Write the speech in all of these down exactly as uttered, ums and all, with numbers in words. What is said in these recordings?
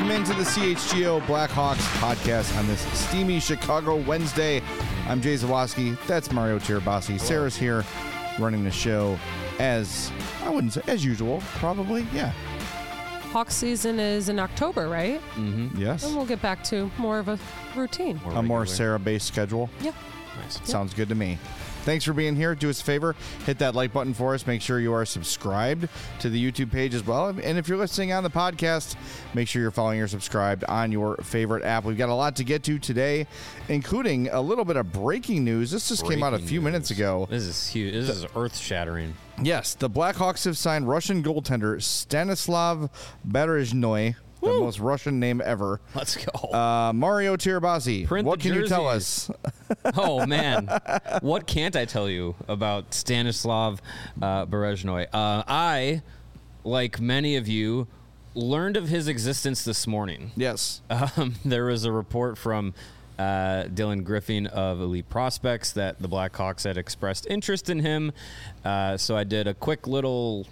Welcome into the C H G O Blackhawks podcast on this steamy Chicago Wednesday. I'm Jay Zawoski. That's Mario Tirabassi. Sarah's here running the show as, I wouldn't say, as usual, probably, yeah. Hawk season is in October, right? Mm-hmm. Yes. And we'll get back to more of a routine. More a more Sarah-based schedule. Yeah. Nice. Sounds yep. good to me. Thanks for being here. Do us a favor. Hit that like button for us. Make sure you are subscribed to the YouTube page as well. And if you're listening on the podcast, make sure you're following or subscribed on your favorite app. We've got a lot to get to today, including a little bit of breaking news. This just breaking came out a few news. minutes ago. This is huge. This the, is earth-shattering. Yes. The Blackhawks have signed Russian goaltender Stanislav Berezhnoi. The Woo. most Russian name ever. Let's go. Uh, Mario Tirabassi. Print what can jerseys. you tell us? Oh, man. What can't I tell you about Stanislav uh, Berezhnoi? Uh, I, like many of you, learned of his existence this morning. Yes. Um, there was a report from uh, Dylan Griffin of Elite Prospects that the Blackhawks had expressed interest in him. Uh, so I did a quick little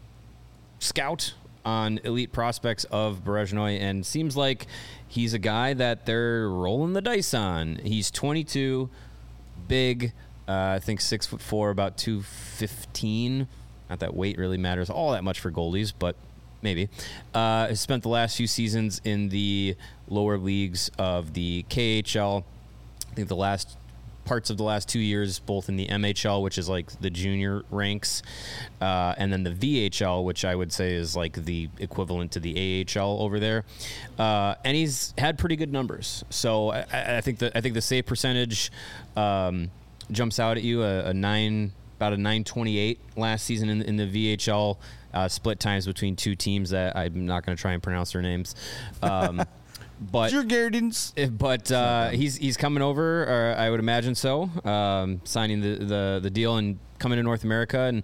scout on Elite Prospects of Berezhnoi, and seems like he's a guy that they're rolling the dice on. He's twenty-two, big, uh, I think six foot four, about two fifteen. Not that weight really matters all that much for goalies, but maybe. Uh, has spent the last few seasons in the lower leagues of the K H L. I think the last parts of the last two years, both in the M H L, which is like the junior ranks, uh, and then the V H L, which I would say is like the equivalent to the A H L over there. Uh, and he's had pretty good numbers. So I, I think the I think the save percentage um, jumps out at you, a, a nine, about a nine twenty-eight last season in, in the V H L, uh, split times between two teams that I'm not going to try and pronounce their names. Um, But but uh, he's he's coming over, or I would imagine so, um, signing the, the, the deal and coming to North America. And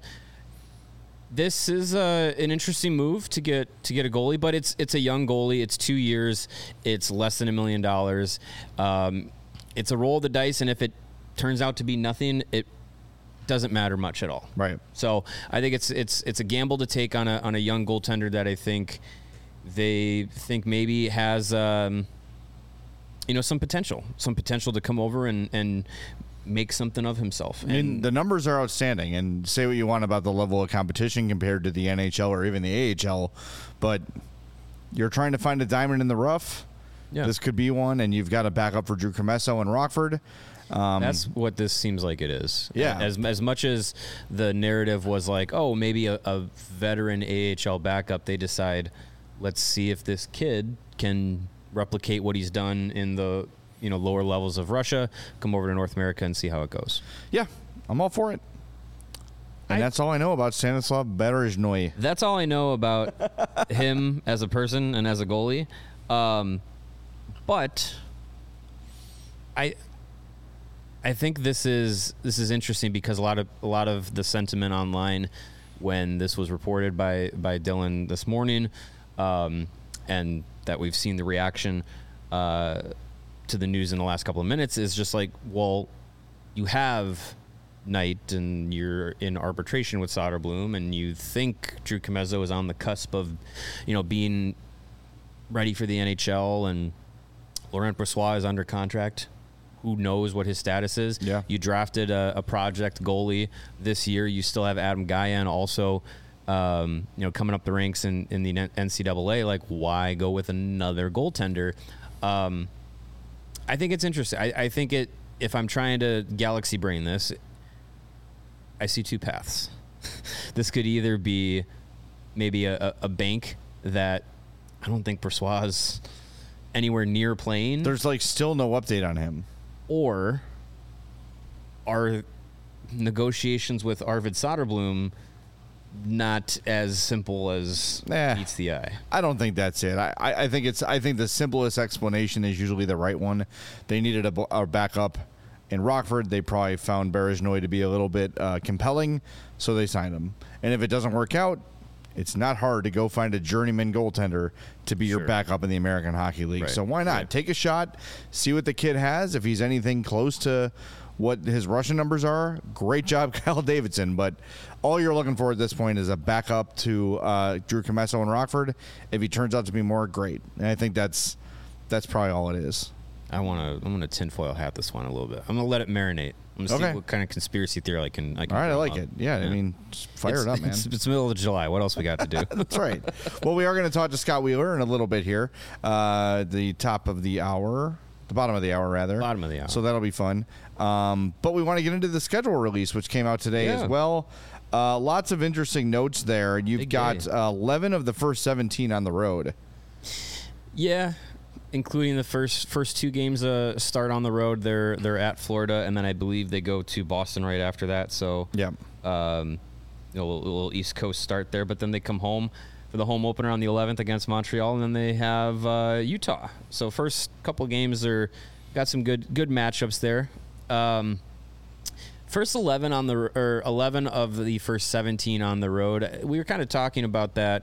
this is uh, an interesting move to get to get a goalie, but it's it's a young goalie. It's two years. It's less than a million dollars. Um, it's a roll of the dice, and if it turns out to be nothing, it doesn't matter much at all. Right. So I think it's it's it's a gamble to take on a on a young goaltender that I think they think maybe has, um, you know, some potential, some potential to come over and, and make something of himself. I mean, and the numbers are outstanding, and say what you want about the level of competition compared to the N H L or even the A H L, but you're trying to find a diamond in the rough. Yeah. This could be one, and you've got a backup for Drew Commesso and Rockford. Um, That's what this seems like it is. Yeah. As as much as the narrative was like, oh, maybe a, a veteran A H L backup, they decide, let's see if this kid can replicate what he's done in the, you know, lower levels of Russia, come over to North America and see how it goes. Yeah, I'm all for it. And I, that's all I know about Stanislav Berezhnoi. That's all I know about him as a person and as a goalie. Um, but I I think this is this is interesting because a lot of a lot of the sentiment online when this was reported by by Dylan this morning, Um, and that we've seen the reaction uh, to the news in the last couple of minutes is just like, well, you have Knight and you're in arbitration with Soderblom, and you think Drew Commesso is on the cusp of, you know, being ready for the N H L, and Laurent Brossoit is under contract. Who knows what his status is? Yeah. You drafted a, a project goalie this year. You still have Adam Gajan also, Um, you know, coming up the ranks in, in the N C double A. Like, why go with another goaltender? Um, I think it's interesting. I, I think it, if I'm trying to galaxy brain this, I see two paths. This could either be maybe a, a bank that I don't think Brossoit's anywhere near playing. There's like still no update on him. Or are negotiations with Arvid Soderblom not as simple as eh, meets the eye? I don't think that's it. I, I, I think it's. I think the simplest explanation is usually the right one. They needed a, a backup in Rockford. They probably found Berezhnoi to be a little bit uh, compelling, so they signed him. And if it doesn't work out, it's not hard to go find a journeyman goaltender to be Sure. your backup in the American Hockey League. Right. So why not? Right. Take a shot, see what the kid has. If he's anything close to what his rushing numbers are, great job, Kyle Davidson. But all you're looking for at this point is a backup to uh, Drew Comesso and Rockford. If he turns out to be more, great. And I think that's that's probably all it is. I want to. I'm going to tinfoil hat this one a little bit. I'm going to let it marinate. I'm going to Okay. see what kind of conspiracy theory I can. I can All right, I drum like up. it. Yeah, I mean, just fire it's, it up, man. It's, it's middle of July. What else we got to do? That's right. Well, we are going to talk to Scott Wheeler in a little bit here. Uh, the top of the hour, the bottom of the hour, rather. Bottom of the hour. So that'll be fun. Um, but we want to get into the schedule release, which came out today Yeah. as well. Uh, lots of interesting notes there. You've Big got day. uh, eleven of the first seventeen on the road. Yeah, including the first first two games uh, start on the road. They're they're at Florida, and then I believe they go to Boston right after that. So Yeah. um, you know, a little, a little East Coast start there, but then they come home for the home opener on the eleventh against Montreal, and then they have uh, Utah. So first couple games are got some good good matchups there. Um, first eleven on the or eleven of the first seventeen on the road. We were kind of talking about that.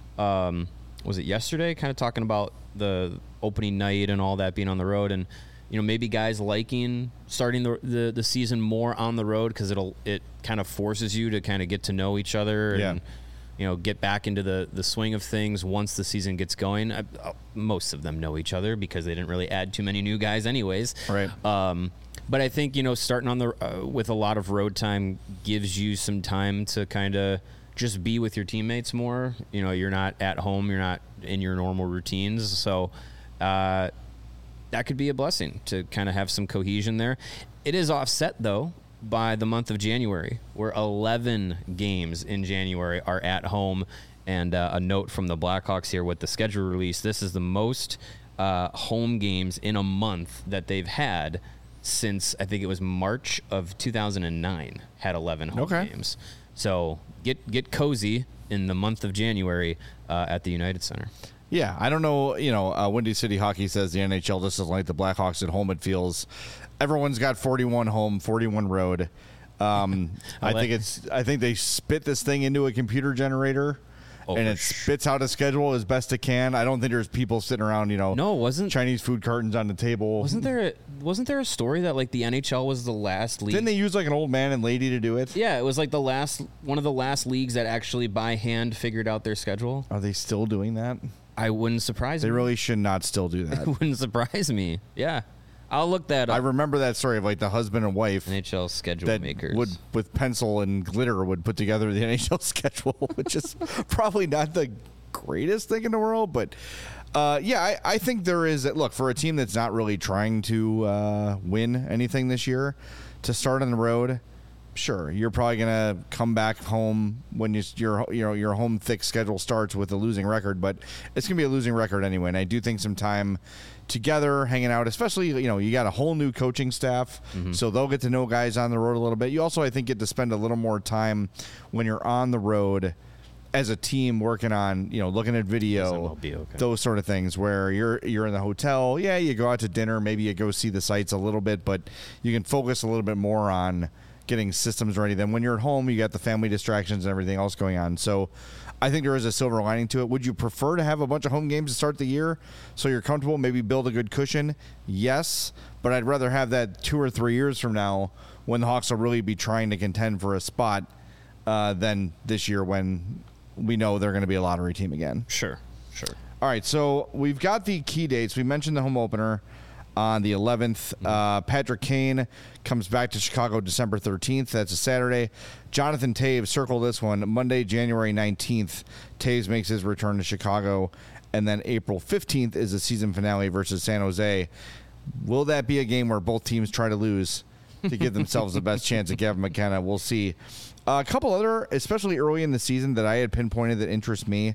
Um, was it yesterday? Kind of talking about the opening night and all that being on the road, and you know maybe guys liking starting the the, the season more on the road because it'll it kind of forces you to kind of get to know each other and Yeah. you know get back into the the swing of things once the season gets going. I, uh, most of them know each other because they didn't really add too many new guys anyways. Right. Um, but I think you know starting on the uh, with a lot of road time gives you some time to kind of just be with your teammates more. You know, you're not at home, you're not in your normal routines, so uh, that could be a blessing to kind of have some cohesion there. It is offset though by the month of January, where eleven games in January are at home. And uh, a note from the Blackhawks here with the schedule release: this is the most uh, home games in a month that they've had since I think it was March of two thousand nine. Had eleven home Okay. games. So get get cozy in the month of January uh, at the United Center. Yeah, I don't know. You know, uh, Windy City Hockey says the N H L just doesn't like the Blackhawks at home. It feels everyone's got forty-one home, forty-one road. Um, I I'll think let- it's. I think they spit this thing into a computer generator, Oh, and for it sure. spits out a schedule as best it can. I don't think there's people sitting around. You know, No, wasn't Chinese food cartons on the table. wasn't there a, wasn't there a story that like the N H L was the last league? Didn't they use like an old man and lady to do it? Yeah, it was like the last one of the last leagues that actually by hand figured out their schedule. Are they still doing that? I wouldn't surprise They me. really should not still do It that. wouldn't surprise me. Yeah, I'll look that I up. remember that story of like the husband and wife N H L schedule that makers. would, with pencil and glitter, would put together the N H L schedule, which is probably not the greatest thing in the world, but uh, yeah, I, I think there is. Look, for a team that's not really trying to uh, win anything this year, to start on the road, sure, you're probably gonna come back home when you, your you know your home thick schedule starts with a losing record, but it's gonna be a losing record anyway. And I do think some time together, hanging out, especially you know you got a whole new coaching staff, so they'll get to know guys on the road a little bit. You also, I think, get to spend a little more time when you're on the road as a team working on, you know, looking at Yes, video, it will be okay. those sort of things where you're you're in the hotel. Yeah, you go out to dinner, maybe you go see the sights a little bit, but you can focus a little bit more on getting systems ready. Then when you're at home, you got the family distractions and everything else going on. So I think there is a silver lining to it. Would you prefer to have a bunch of home games to start the year so you're comfortable, maybe build a good cushion? Yes, but I'd rather have that two or three years from now when the Hawks will really be trying to contend for a spot uh, than this year when we know they're going to be a lottery team again. Sure, sure. All right, so we've got the key dates. We mentioned the home opener on the eleventh. Uh, Patrick Kane comes back to Chicago December thirteenth. That's a Saturday. Jonathan Taves, circle this one, Monday, January nineteenth. Taves makes his return to Chicago. And then April fifteenth is the season finale versus San Jose. Will that be a game where both teams try to lose to give themselves the best chance at Gavin McKenna? We'll see. Uh, a couple other, especially early in the season, that I had pinpointed that interest me.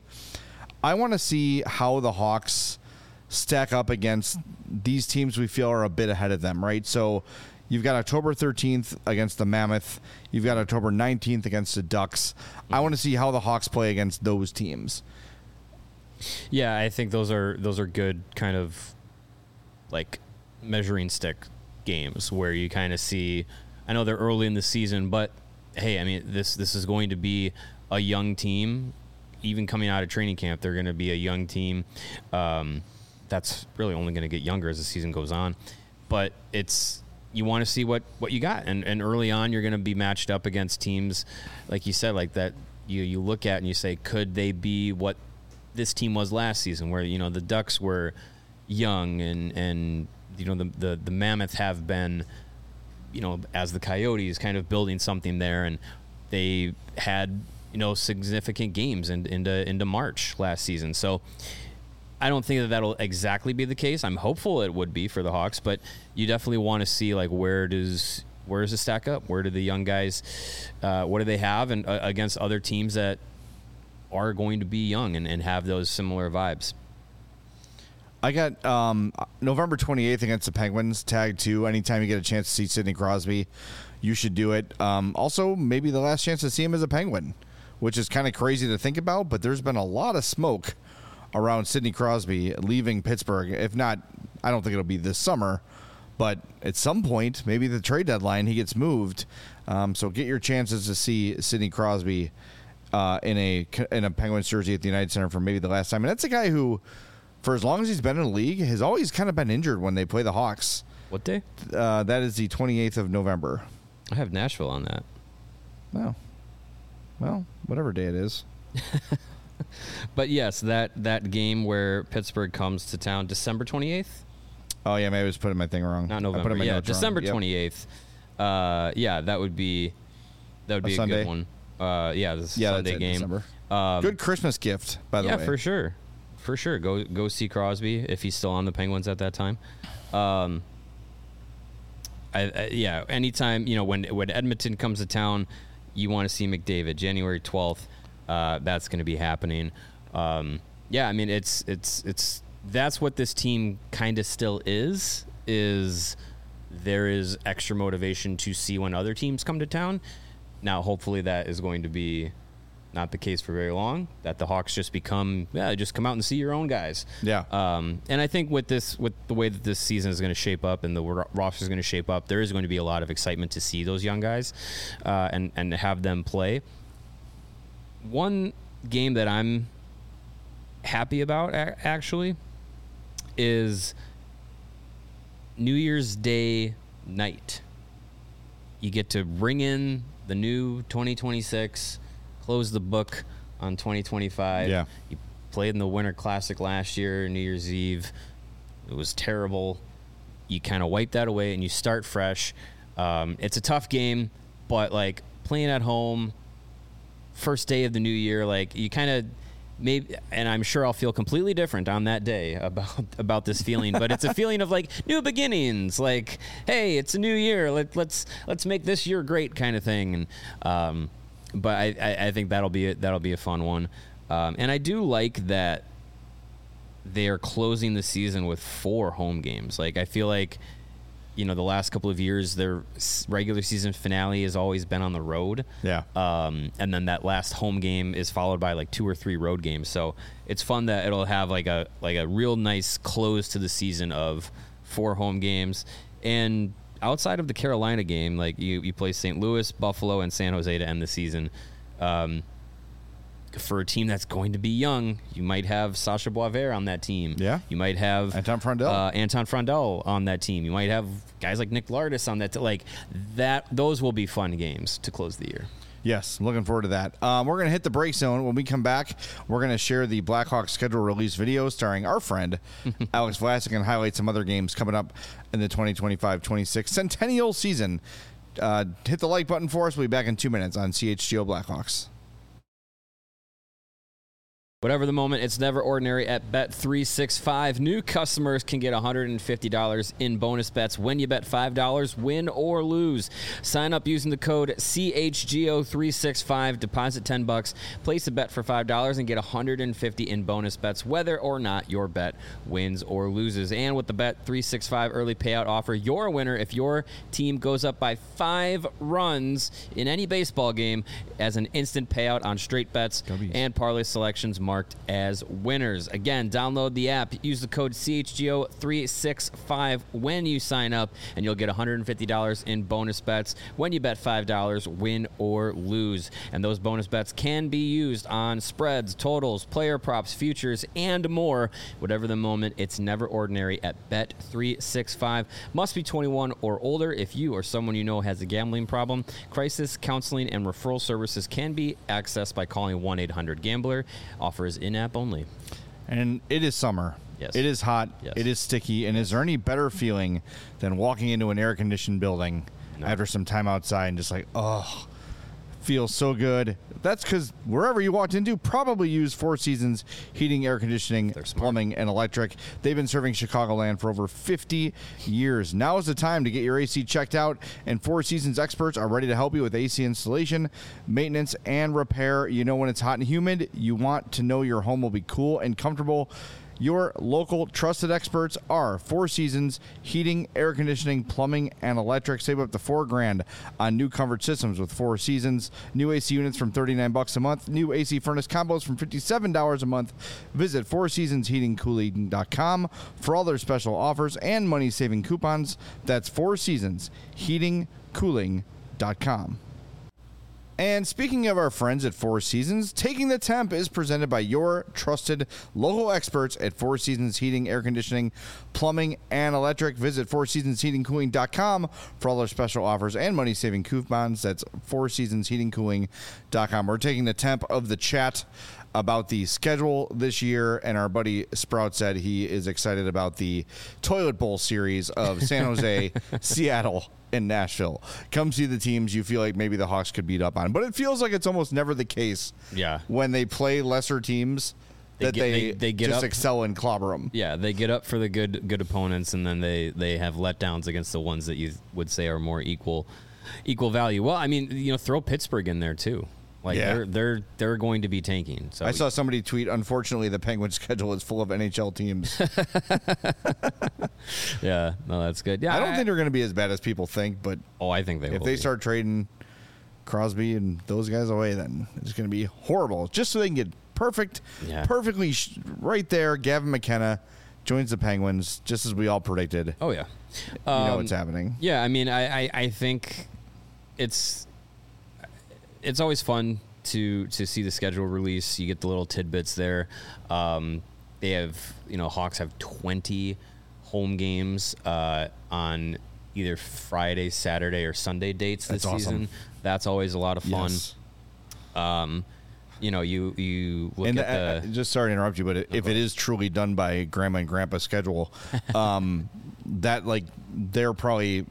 I want to see how the Hawks stack up against these teams we feel are a bit ahead of them, right? So you've got October thirteenth against the Mammoth. You've got October nineteenth against the Ducks. I want to see how the Hawks play against those teams. Yeah, I think those are those are good kind of like measuring stick games where you kind of see. I know they're early in the season, but hey, I mean this this is going to be a young team. Even coming out of training camp, they're going to be a young team. Um, that's really only going to get younger as the season goes on. But it's you want to see what, what you got. And and early on, you're going to be matched up against teams, like you said, like that you, you look at and you say, could they be what this team was last season, where, you know, the Ducks were young and, and you know, the, the, the Mammoth have been, you know, as the Coyotes, kind of building something there. And they had, you know, significant games in, into, into March last season. So I don't think that that'll exactly be the case. I'm hopeful it would be for the Hawks, but you definitely want to see, like, where does where does it stack up? Where do the young guys, uh, what do they have, and uh, against other teams that are going to be young and, and have those similar vibes? I got um, November twenty-eighth against the Penguins, tag two. Anytime you get a chance to see Sidney Crosby, you should do it. Um, also, maybe the last chance to see him as a Penguin, which is kind of crazy to think about, but there's been a lot of smoke around Sidney Crosby leaving Pittsburgh. If not, I don't think it'll be this summer, but at some point, maybe the trade deadline, he gets moved. Um, so get your chances to see Sidney Crosby uh, in a in a Penguins jersey at the United Center for maybe the last time. And that's a guy who, for as long as he's been in the league, has always kind of been injured when they play the Hawks. What day? Uh, that is the twenty-eighth of November. I have Nashville on that. Well, well, whatever day it is. But yes, that, that game where Pittsburgh comes to town, December twenty-eighth? Oh, yeah, maybe I was putting my thing wrong. Not I put November. in my Yeah, notes wrong. December Yep. twenty-eighth. Uh, yeah, that would be that would A be a Sunday? good one. Uh, yeah, this Yeah, Sunday that's it, game. December. Um, Good Christmas gift, by the yeah, way. for sure, for sure. Go go see Crosby if he's still on the Penguins at that time. Um, I, I, yeah, anytime, you know, when when Edmonton comes to town, you want to see McDavid. January twelfth, uh, that's going to be happening. Um, yeah, I mean, it's it's it's that's what this team kind of still is. Is there is extra motivation to see when other teams come to town. Now, hopefully, that is going to be not the case for very long, that the Hawks just become, yeah, just come out and see your own guys. Yeah. Um, and I think with this, with the way that this season is going to shape up and the roster is going to shape up, there is going to be a lot of excitement to see those young guys uh, and, and have them play. One game that I'm happy about, a- actually, is New Year's Day night. You get to bring in the new twenty twenty-six, close the book on twenty twenty-five. Yeah. You played in the Winter Classic last year, New Year's Eve. It was terrible. You kind of wipe that away and you start fresh. Um, it's a tough game, but like playing at home, first day of the new year, like you kind of maybe, and I'm sure I'll feel completely different on that day about about this feeling, but it's a feeling of like new beginnings, like, hey, it's a new year, Let, let's let's make this year great kind of thing. And um, but I, I, I think that'll be a, that'll be a fun one, um, and I do like that they are closing the season with four home games. Like I feel like, you know, the last couple of years, their regular season finale has always been on the road. Yeah. Um, and then that last home game is followed by like two or three road games. So it's fun that it'll have like a like a real nice close to the season of four home games. And outside of the Carolina game, like you, you play Saint Louis, Buffalo, and San Jose to end the season. Um, for a team that's going to be young, you might have Sasha Boisvert on that team. Yeah. You might have Anton Frondel. Uh, Anton Frondel on that team. You might have guys like Nick Lardis on that. T- like that, those will be fun games to close the year. Yes, looking forward to that. Um, we're going to hit the break zone. When we come back, we're going to share the Blackhawks schedule release video starring our friend Alex Vlasic and highlight some other games coming up in the twenty twenty-five twenty-six Centennial season. Uh, hit the like button for us. We'll be back in two minutes on C H G O Blackhawks. Whatever the moment, it's never ordinary at Bet three sixty-five. New customers can get one hundred fifty dollars in bonus bets when you bet five dollars, win or lose. Sign up using the code C H G O three sixty-five, deposit ten bucks, place a bet for five dollars, and get one hundred fifty dollars in bonus bets whether or not your bet wins or loses. And with the Bet three sixty-five early payout offer, you're a winner if your team goes up by five runs in any baseball game as an instant payout on straight bets W's. and parlay selections marked as winners. Again, download the app. Use the code C H G O three six five when you sign up, and you'll get one hundred fifty dollars in bonus bets when you bet five dollars, win or lose. And those bonus bets can be used on spreads, totals, player props, futures, and more. Whatever the moment, it's never ordinary at Bet three sixty-five. Must be twenty-one or older. If you or someone you know has a gambling problem, crisis counseling and referral services can be accessed by calling one eight hundred gambler. Offer is in-app only. And it is summer. Yes. It is hot. Yes. It is sticky. And is there any better feeling than walking into an air-conditioned building No. after some time outside and just like, oh, feels so good? That's because wherever you walked into probably used Four Seasons heating, air conditioning, They're smart. plumbing, and electric. They've been serving Chicagoland for over fifty years. Now is the time to get your A C checked out, and Four Seasons experts are ready to help you with A C installation, maintenance, and repair. You know when it's hot and humid, you want to know your home will be cool and comfortable. Your local trusted experts are Four Seasons Heating, Air Conditioning, Plumbing, and Electric. Save up to four grand on new comfort systems with Four Seasons. New A C units from thirty-nine bucks a month. New A C furnace combos from fifty-seven dollars a month. Visit four seasons heating cooling dot com for all their special offers and money-saving coupons. That's four seasons heating cooling dot com. And speaking of our friends at Four Seasons, Taking the Temp is presented by your trusted local experts at Four Seasons Heating, Air Conditioning, Plumbing, and Electric. Visit four seasons heating cooling dot com for all their special offers and money-saving coupons. That's four seasons heating cooling dot com. We're taking the temp of the chat about the schedule this year, and our buddy Sprout said he is excited about the Toilet Bowl series of San Jose, Seattle, and Nashville. Come see the teams you feel like maybe the Hawks could beat up on. But it feels like it's almost never the case Yeah. when they play lesser teams They that get- they, they- they get just up- excel and clobber them. Yeah, they get up for the good good opponents, and then they, they have letdowns against the ones that you would say are more equal equal value. Well, I mean, you know, throw Pittsburgh in there too. Like Yeah. they're they're they're going to be tanking. So I saw somebody tweet, unfortunately, the Penguins schedule is full of N H L teams. yeah, no, that's good. Yeah, I don't think they're going to be as bad as people think, but Oh, I think they if will they be. start trading Crosby and those guys away, then it's going to be horrible. Just so they can get perfect, Yeah. perfectly sh- right there. Gavin McKenna joins the Penguins, just as we all predicted. Oh yeah, You know Um, what's happening. Yeah, I mean, I, I, I think it's it's always fun to to see the schedule release. You get the little tidbits there. Um, they have, you know, Hawks have twenty home games uh, on either Friday, Saturday, or Sunday dates this That's awesome. season. That's always a lot of fun. Yes. Um, you know, you you look And at uh, the just sorry to interrupt you, but it, if it is truly done by Grandma and Grandpa's schedule, um, that like they're probably,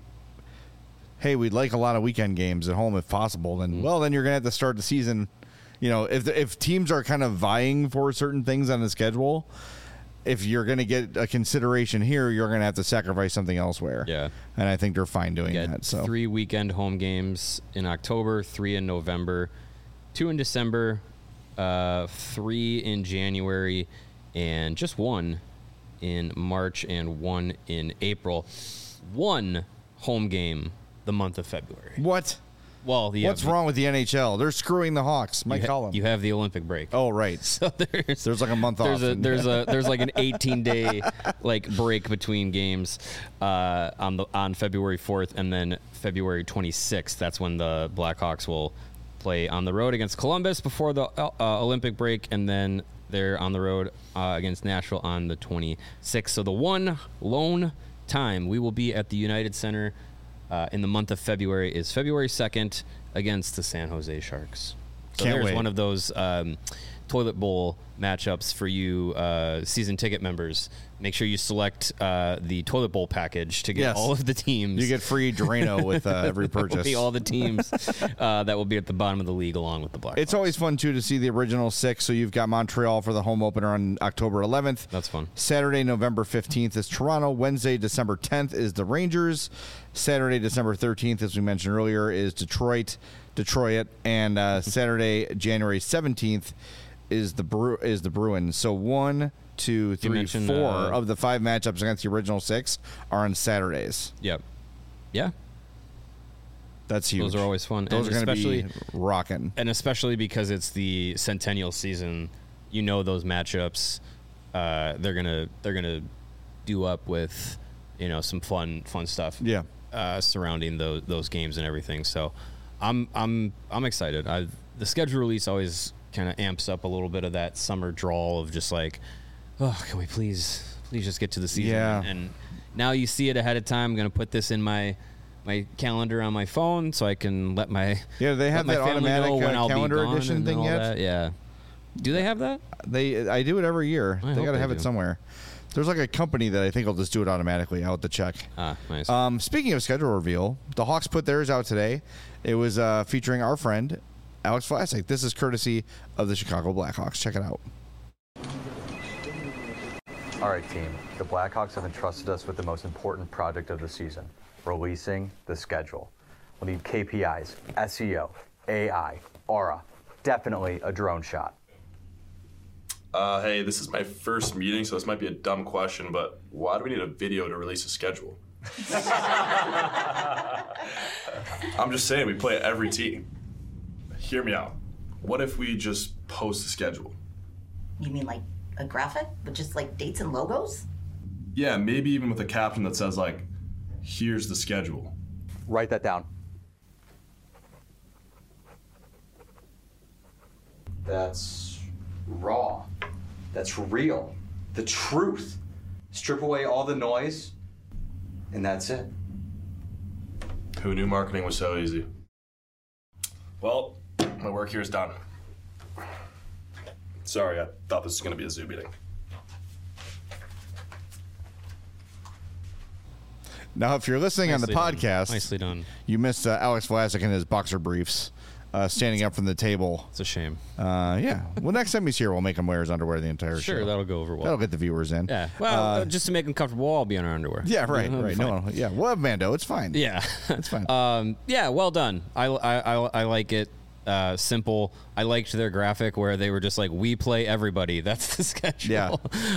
hey, we'd like a lot of weekend games at home if possible. Then Mm-hmm. well, then you're gonna have to start the season. You know, if the, if teams are kind of vying for certain things on the schedule, if you're gonna get a consideration here, you're gonna have to sacrifice something elsewhere. Yeah. and I think they're fine doing You got that. So three weekend home games in October, three in November, two in December, uh, three in January, and just one in March and one in April. One home game the month of February. what? Well, you What's have, wrong with the N H L? They're screwing the Hawks. You, Mike ha- Collins. you have the Olympic break. Oh, right. So there's There's like a month there's off. a and- there's a there's like an eighteen day like break between games uh, on the on February fourth and then February twenty-sixth. That's when the Blackhawks will play on the road against Columbus before the uh, Olympic break, and then they're on the road uh, against Nashville on the twenty-sixth. So the one lone time we will be at the United Center uh, in the month of February is February second against the San Jose Sharks. So Can't there's wait. one of those um, toilet bowl matchups for you uh, season ticket members. Make sure you select uh, the toilet bowl package to get Yes. all of the teams. You get free Drano with uh, every That will purchase. be all the teams uh, that will be at the bottom of the league along with the Blackhawks. It's always fun, too, to see the original six. So you've got Montreal for the home opener on October eleventh. That's fun. Saturday, November fifteenth is Toronto. Wednesday, December tenth is the Rangers. Saturday, December thirteenth, as we mentioned earlier, is Detroit. Detroit. And uh, Saturday, January seventeenth is the Bru- is the Bruins. So one, two, three, mentioned, four uh, of the five matchups against the original six are on Saturdays. Yep. Yeah. That's huge. Those are always fun. Those and are going to especially be rocking. and especially because it's the centennial season you know those matchups, uh, they're gonna they're gonna do up with, you know, some fun fun stuff. Yeah. Uh, surrounding those those games and everything. So, I'm I'm I'm excited. I the schedule release always kind of amps up a little bit of that summer drawl of just like, oh, can we please please just get to the season? Yeah. And now you see it ahead of time. I'm gonna put this in my my calendar on my phone so I can let my Yeah, they have let that my family automatic know when uh, I'll be calendar gone edition and thing all yet. that. Yeah. Do they have that? They I do it every year. I they hope got to they have it do. somewhere. There's like a company that I think will just do it automatically. I'll have to check. Ah, nice. Um, speaking of schedule reveal, the Hawks put theirs out today. It was uh, featuring our friend Alex Vlasic. This is courtesy of the Chicago Blackhawks. Check it out. All right, team. The Blackhawks have entrusted us with the most important project of the season, releasing the schedule. We'll need K P Is, S E O, A I, Aura, definitely a drone shot. Uh, hey, this is my first meeting, so this might be a dumb question, but why do we need a video to release a schedule? I'm just saying, we play every team. Hear me out. What if we just post the schedule? You mean like a graphic with just like dates and logos? Yeah, maybe even with a caption that says, like, here's the schedule. Write that down. That's raw. That's real. The truth. Strip away all the noise, and that's it. Who knew marketing was so easy? Well, my work here is done. Sorry, I thought this was going to be a Zoom meeting. Now, if you're listening Nicely on done. the podcast, Nicely done. you missed uh, Alex Vlasic in his boxer briefs, uh, standing up from the table. It's a shame. Uh, yeah. Well, next time he's here, we'll make him wear his underwear the entire Sure, show. that'll go over well. That'll get the viewers in. Yeah. Well, uh, just to make them comfortable, I'll be in our underwear. Yeah, right, It'll be right. fine. No, no, yeah. We'll have Mando. It's fine. Yeah. It's fine. um, yeah, well done. I, I, I, I like it. Uh, simple. I liked their graphic where they were just like, we play everybody. That's the schedule. Yeah.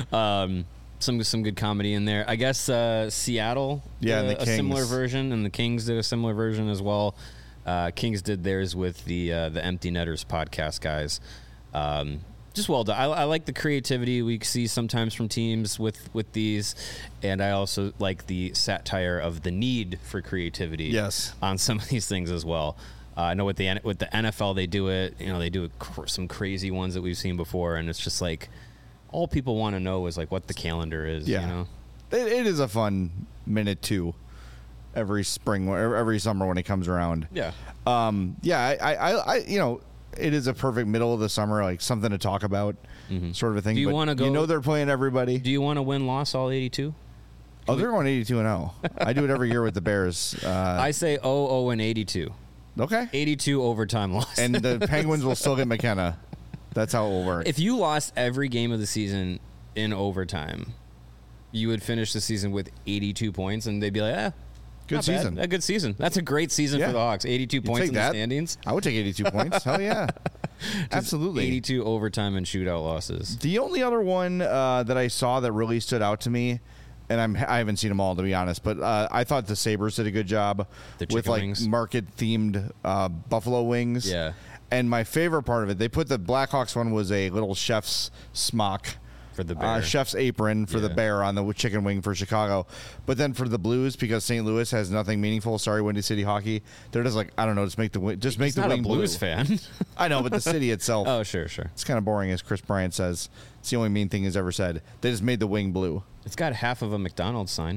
um, some some good comedy in there. I guess uh, Seattle Yeah, did and the a, a similar Kings. version, and the Kings did a similar version as well. Uh, Kings did theirs with the uh, the Empty Netters podcast guys. Um, just well done. I, I like the creativity we see sometimes from teams with, with these, and I also like the satire of the need for creativity. Yes. On some of these things as well. Uh, I know with the with the N F L they do it. You know, they do it cr- some crazy ones that we've seen before, and it's just like all people want to know is like what the calendar is. Yeah. You know. It, it is a fun minute too. Every spring, or every summer when it comes around. Yeah. Um, yeah, I, I, I, you know, it is a perfect middle of the summer, like something to talk about, sort of a thing. Do you but wanna go- You know, they're playing everybody. Do you want to win loss all eighty-two? Oh, they're going eighty-two and oh. I do it every year with the Bears. Uh, I say oh oh and eighty-two. okay. eighty-two overtime loss. And the Penguins will still get McKenna. That's how it will work. If you lost every game of the season in overtime, you would finish the season with eighty-two points, and they'd be like, eh, Good not bad. season. A good season. That's a great season Yeah. for the Hawks. eighty-two You'd points take in that. the standings. I would take eighty-two points. Hell yeah. Absolutely. eighty-two overtime and shootout losses. The only other one uh, that I saw that really stood out to me, and I'm I haven't seen them all to be honest, but uh, I thought the Sabres did a good job The with chicken like wings? market themed uh, buffalo wings. Yeah. And my favorite part of it, they put the Blackhawks one was a little chef's smock. For the Uh, Bear. chef's apron for the Yeah. Bear on the chicken wing for Chicago. But then for the Blues, because Saint Louis has nothing meaningful, sorry, Windy City Hockey, they're just like, I don't know, just make the wi- just make He's the not a wing Blues blue. fan. I know, but the city itself. Oh, sure, sure. It's kind of boring, as Chris Bryant says. It's the only mean thing he's ever said. They just made the wing blue. It's got half of a McDonald's sign.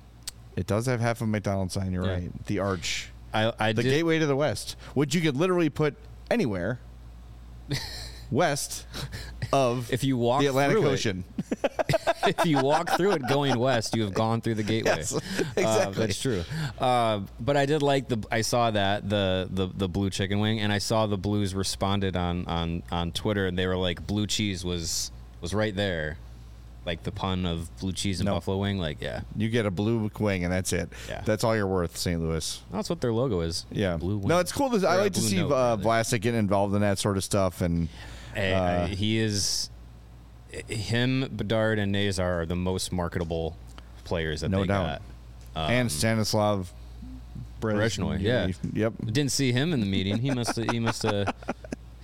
It does have half a McDonald's sign. You're Yeah. right. The arch, I, I the did, gateway to the west, which you could literally put anywhere west of If you walk the Atlantic through it. Ocean. if you walk through it going west, you have gone through the gateway. Yes, Uh, exactly. that's true. Uh, but I did like the. I saw that the, the the blue chicken wing, and I saw the Blues responded on on on Twitter, and they were like, "Blue cheese was was right there." Like the pun of blue cheese and No. buffalo wing, like yeah, You get a blue wing, and that's it. Yeah. That's all you're worth, Saint Louis. that's what their logo is. Yeah. blue wing. No, it's cool. To, I Or a like to blue see note, uh, rather. Vlasic getting involved in that sort of stuff. And Hey, uh, I- he is. Him, Bedard, and Nazar are the most marketable players that No they doubt. got. Um, and Stanislav Brez- Brezhnev, yeah. Yep. Didn't see him in the meeting. He must. He must have.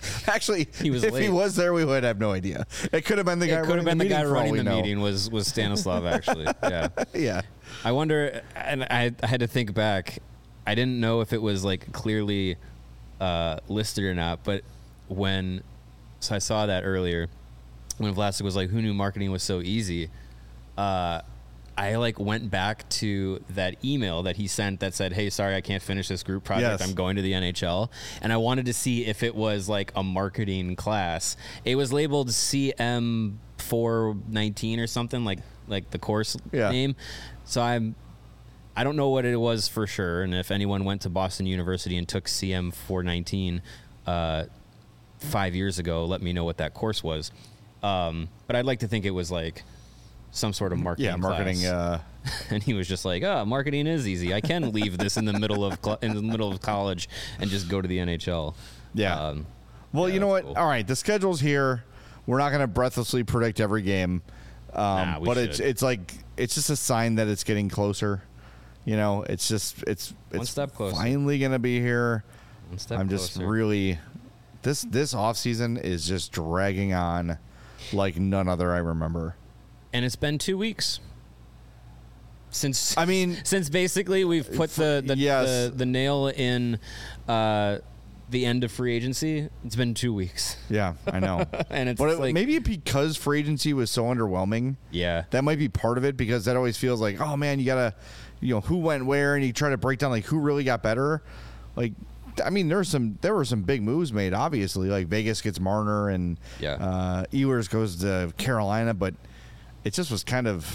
Actually, He was if late. he was there, we would have no idea. It could have been the guy. It could have running been the guy meeting for all running we the know. meeting was was Stanislav actually. Yeah. Yeah. I wonder, and I, I had to think back. I didn't know if it was like clearly uh, listed or not, but when, so I saw that earlier when Vlasic was like, "Who knew marketing was so easy?" Uh, I like went back to that email that he sent that said, "Hey, sorry, I can't finish this group project. Yes. I'm going to the N H L," and I wanted to see if it was like a marketing class. It was labeled C M four nineteen or something like like the course Yeah. name. So I'm. I don't know what it was for sure, and if anyone went to Boston University and took C M four nineteen uh, five years ago, let me know what that course was. Um, but I'd like to think it was like some sort of marketing. Yeah, marketing. class. Uh, And he was just like, "Oh, marketing is easy. I can leave this in the middle of cl- in the middle of college and just go to the N H L." yeah. Um, well, yeah, you know what? that's cool. All right, the schedule's here. We're not going to breathlessly predict every game, um, Nah, we but it's should. it's like it's just a sign that it's getting closer. You know, it's just it's One it's step closer. finally going to be here. one step I'm just closer. really this this off season is just dragging on like none other I remember. and it's been two weeks since. I mean, since basically we've put the the, yes. the, the nail in uh, the end of free agency. It's been two weeks, yeah, I know. and it's But it, like maybe because free agency was so underwhelming, yeah, that might be part of it because that always feels like, oh man, you gotta, you know, who went where, and you try to break down like who really got better. Like, I mean, there's some there were some big moves made. Obviously, like Vegas gets Marner and Yeah. uh, Ehlers goes to Carolina, but it just was kind of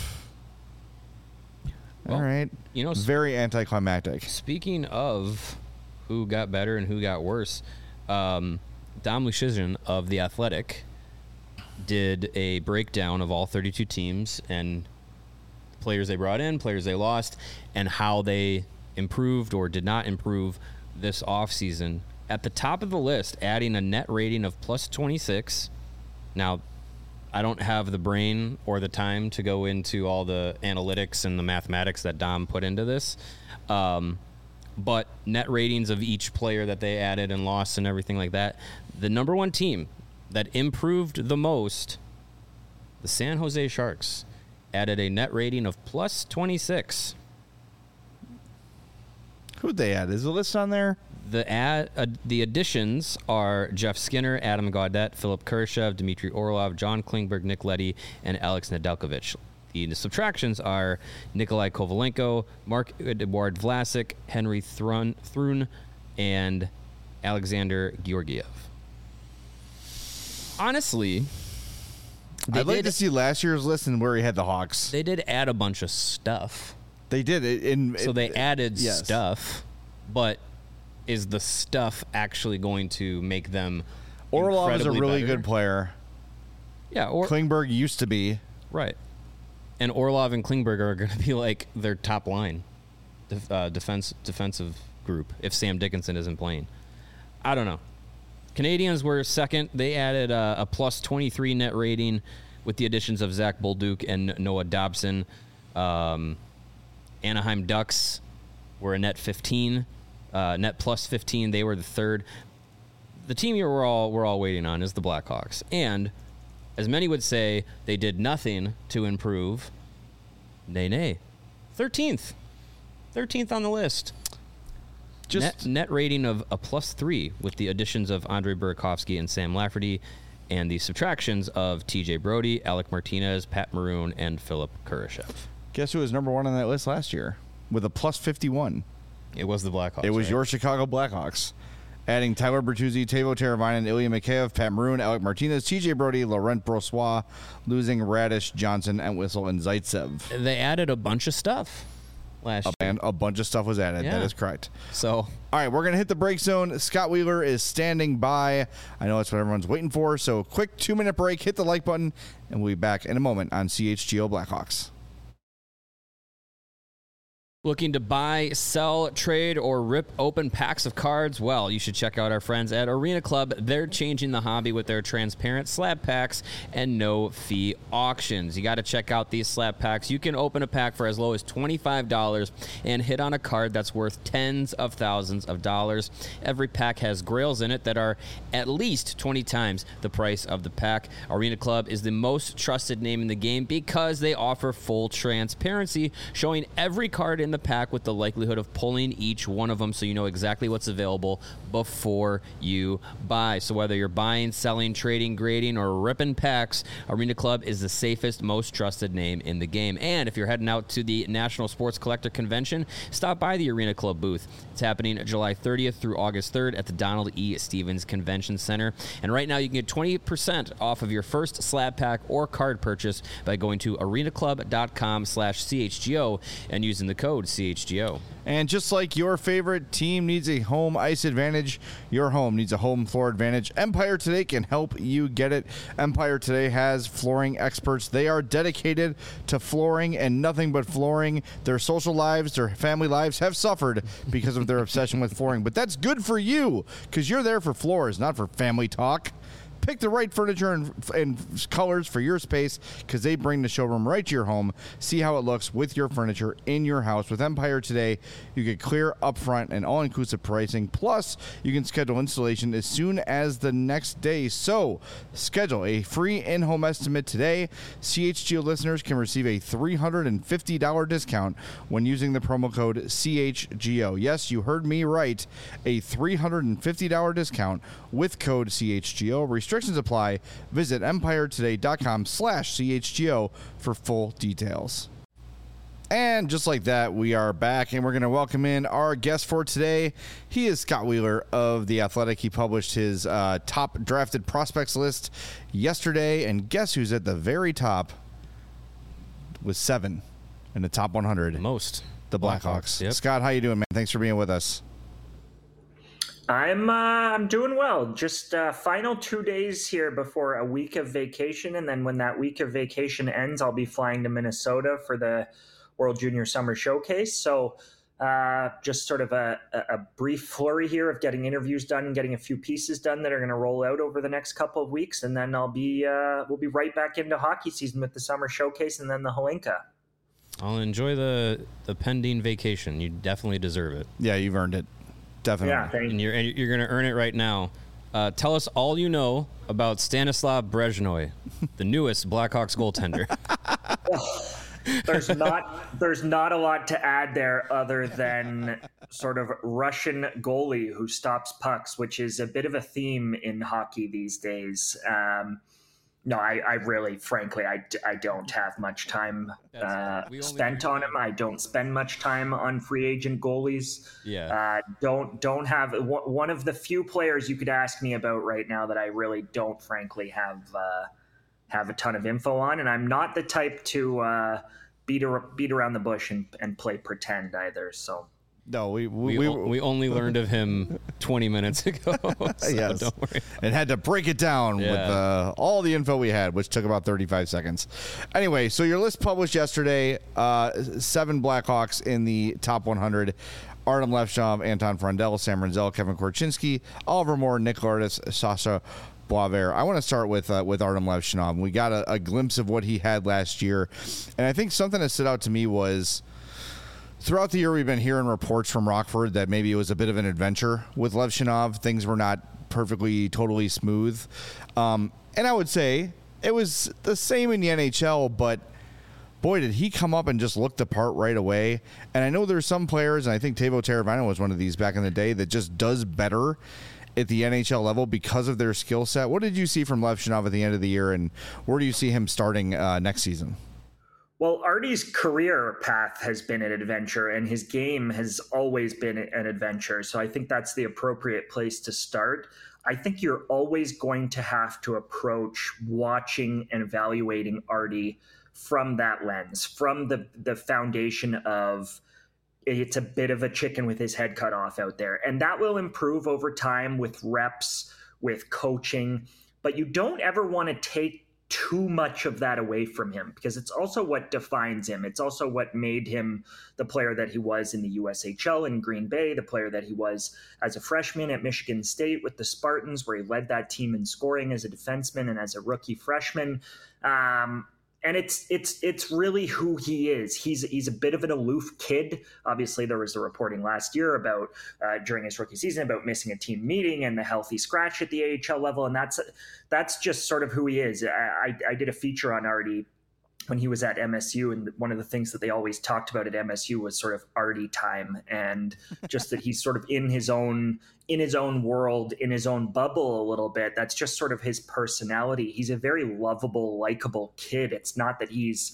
Well, all right. you know, s- very anticlimactic. Speaking of who got better and who got worse, um, Dom Luszczyszyn of The Athletic did a breakdown of all thirty-two teams and players they brought in, players they lost, and how they improved or did not improve this offseason. At the top of the list, adding a net rating of plus twenty-six. Now, I don't have the brain or the time to go into all the analytics and the mathematics that Dom put into this. Um, but net ratings of each player that they added and lost and everything like that. The number one team that improved the most, the San Jose Sharks, added a net rating of plus twenty-six. Who'd they add? Is the list on there? The ad, uh, the additions are Jeff Skinner, Adam Gaudette, Philip Kurashev, Dmitry Orlov, John Klingberg, Nick Leddy, and Alex Nedeljkovic. The subtractions are Nikolai Kovalenko, Mark-Edouard Vlasic, Henry Thrun, Thrun, and Alexander Georgiev. Honestly, they I'd like did, to see last year's list and where he had the Hawks. they did add a bunch of stuff. They did it in So they added yes. stuff, but is the stuff actually going to make them Orlov is a incredibly really better? good player. Yeah, or Klingberg used to be. right. And Orlov and Klingberg are going to be like their top line def, uh, defense defensive group if Sam Dickinson isn't playing. I don't know. Canadians were second. They added uh, a plus twenty-three net rating with the additions of Zach Bolduc and Noah Dobson. Um, Anaheim Ducks were a net fifteen, uh, net plus fifteen. They were the third. The team here we're all we're all waiting on is the Blackhawks, and as many would say, they did nothing to improve. Nay, nay, thirteenth, thirteenth on the list. Just net, net rating of a plus three with the additions of Andre Burakovsky and Sam Lafferty, and the subtractions of T J Brody, Alec Martinez, Pat Maroon, and Philip Kurashev. guess who was number one on that list last year with a plus fifty-one. It was the Blackhawks. It was right? your Chicago Blackhawks. Adding Tyler Bertuzzi, Teuvo Teravainen, Ilya Mikheyev, Pat Maroon, Alec Martinez, T J Brody, Laurent Brossois, losing Radish, Johnson, Entwistle, and Zaitsev. They added a bunch of stuff last year. And a bunch of stuff was added. That Yeah. is correct. So All right, we're going to hit the break zone. Scott Wheeler is standing by. I know that's what everyone's waiting for. So quick two-minute break. Hit the like button, and we'll be back in a moment on C H G O Blackhawks. Looking to buy, sell, trade, or rip open packs of cards? Well, you should check out our friends at Arena Club. They're changing the hobby with their transparent slab packs and no-fee auctions. You got to check out these slab packs. You can open a pack for as low as twenty-five dollars and hit on a card that's worth tens of thousands of dollars. Every pack has grails in it that are at least twenty times the price of the pack. Arena Club is the most trusted name in the game because they offer full transparency, showing every card in the pack with the likelihood of pulling each one of them so you know exactly what's available before you buy. So whether you're buying, selling, trading, grading, or ripping packs, Arena Club is the safest, most trusted name in the game. And if you're heading out to the National Sports Collector Convention, stop by the Arena Club booth. It's happening July thirtieth through August third at the Donald E. Stevens Convention Center. And right now you can get twenty percent off of your first slab pack or card purchase by going to arenaclub.com slash CHGO and using the code C H G O. And just like your favorite team needs a home ice advantage, your home needs a home floor advantage. Empire Today can help you get it. Empire Today has flooring experts. They are dedicated to flooring and nothing but flooring. Their social lives, their family lives have suffered because of their obsession with flooring. But that's good for you because you're there for floors, not for family talk. Pick the right furniture and, and colors for your space because they bring the showroom right to your home. See how it looks with your furniture in your house. With Empire Today, you get clear, upfront, and all-inclusive pricing. Plus, you can schedule installation as soon as the next day. So, schedule a free in-home estimate today. C H G O listeners can receive a three hundred fifty dollars discount when using the promo code C H G O. Yes, you heard me right. A three hundred fifty dollars discount with code C H G O. Restrictions apply. Visit empiretoday.com slash CHGO for full details. And just like that, we are back, and we're going to welcome in our guest for today. He is Scott Wheeler of The Athletic. He published his uh, top drafted prospects list yesterday, and guess who's at the very top with seven in the top one hundred? Most. The Blackhawks. Yep. Scott, how you doing, man? Thanks for being with us. I'm uh, I'm doing well. Just uh, final two days here before a week of vacation, and then when that week of vacation ends, I'll be flying to Minnesota for the World Junior Summer Showcase. So uh, just sort of a, a brief flurry here of getting interviews done and getting a few pieces done that are going to roll out over the next couple of weeks, and then I'll be uh, we'll be right back into hockey season with the Summer Showcase and then the Holinka. I'll enjoy the the pending vacation. You definitely deserve it. Yeah, you've earned it. Definitely. Yeah, thank And you're and you're going to earn it right now. Uh, tell us all you know about Stanislav Brezhnev, the newest Blackhawks goaltender. There's not there's not a lot to add there other than sort of Russian goalie who stops pucks, which is a bit of a theme in hockey these days. Um, no, I, I really, frankly, I, I don't have much time uh, spent on him. I don't spend much time on free agent goalies. Yeah. Uh, don't don't have one of the few players you could ask me about right now that I really don't, frankly, have uh, have a ton of info on. And I'm not the type to uh, beat ar- beat around the bush and, and play pretend either. So. No, we we, We, we, o- we only learned of him twenty minutes ago. So yes. don't worry. And had to break it down Yeah. with uh, all the info we had, which took about thirty-five seconds. Anyway, so your list published yesterday, uh, seven Blackhawks in the top one hundred. Artem Levshov, Anton Frondel, Sam Renzel, Kevin Korchinski, Oliver Moore, Nick Lourdes, Sasha Boisvert. I want to start with uh, with Artem Levshov. We got a, a glimpse of what he had last year, and I think something that stood out to me was throughout the year we've been hearing reports from Rockford that maybe it was a bit of an adventure with Levshov. Things were not perfectly, totally smooth, um, and I would say it was the same in the N H L, but boy, did he come up and just look the part right away. And I know there's some players, and I think Teuvo Teravainen was one of these back in the day, that just does better at the N H L level because of their skill set. What did you see from Levshov at the end of the year, and where do you see him starting uh, next season? Well, Artie's career path has been an adventure, and his game has always been an adventure. So I think that's the appropriate place to start. I think you're always going to have to approach watching and evaluating Artie from that lens, from the the foundation of it's a bit of a chicken with his head cut off out there. And that will improve over time with reps, with coaching. But you don't ever want to take too much of that away from him, because it's also what defines him. It's also what made him the player that he was in the U S H L in Green Bay, the player that he was as a freshman at Michigan State with the Spartans, where he led that team in scoring as a defenseman and as a rookie freshman. Um, And it's it's it's really who he is. He's he's a bit of an aloof kid. Obviously, there was the reporting last year about uh, during his rookie season about missing a team meeting and the healthy scratch at the A H L level, and that's that's just sort of who he is. I, I, I did a feature on Artie when he was at M S U, and one of the things that they always talked about at M S U was sort of Artie time, and just that he's sort of in his own in his own world, in his own bubble a little bit. That's just sort of his personality. He's a very lovable, likable kid. It's not that he's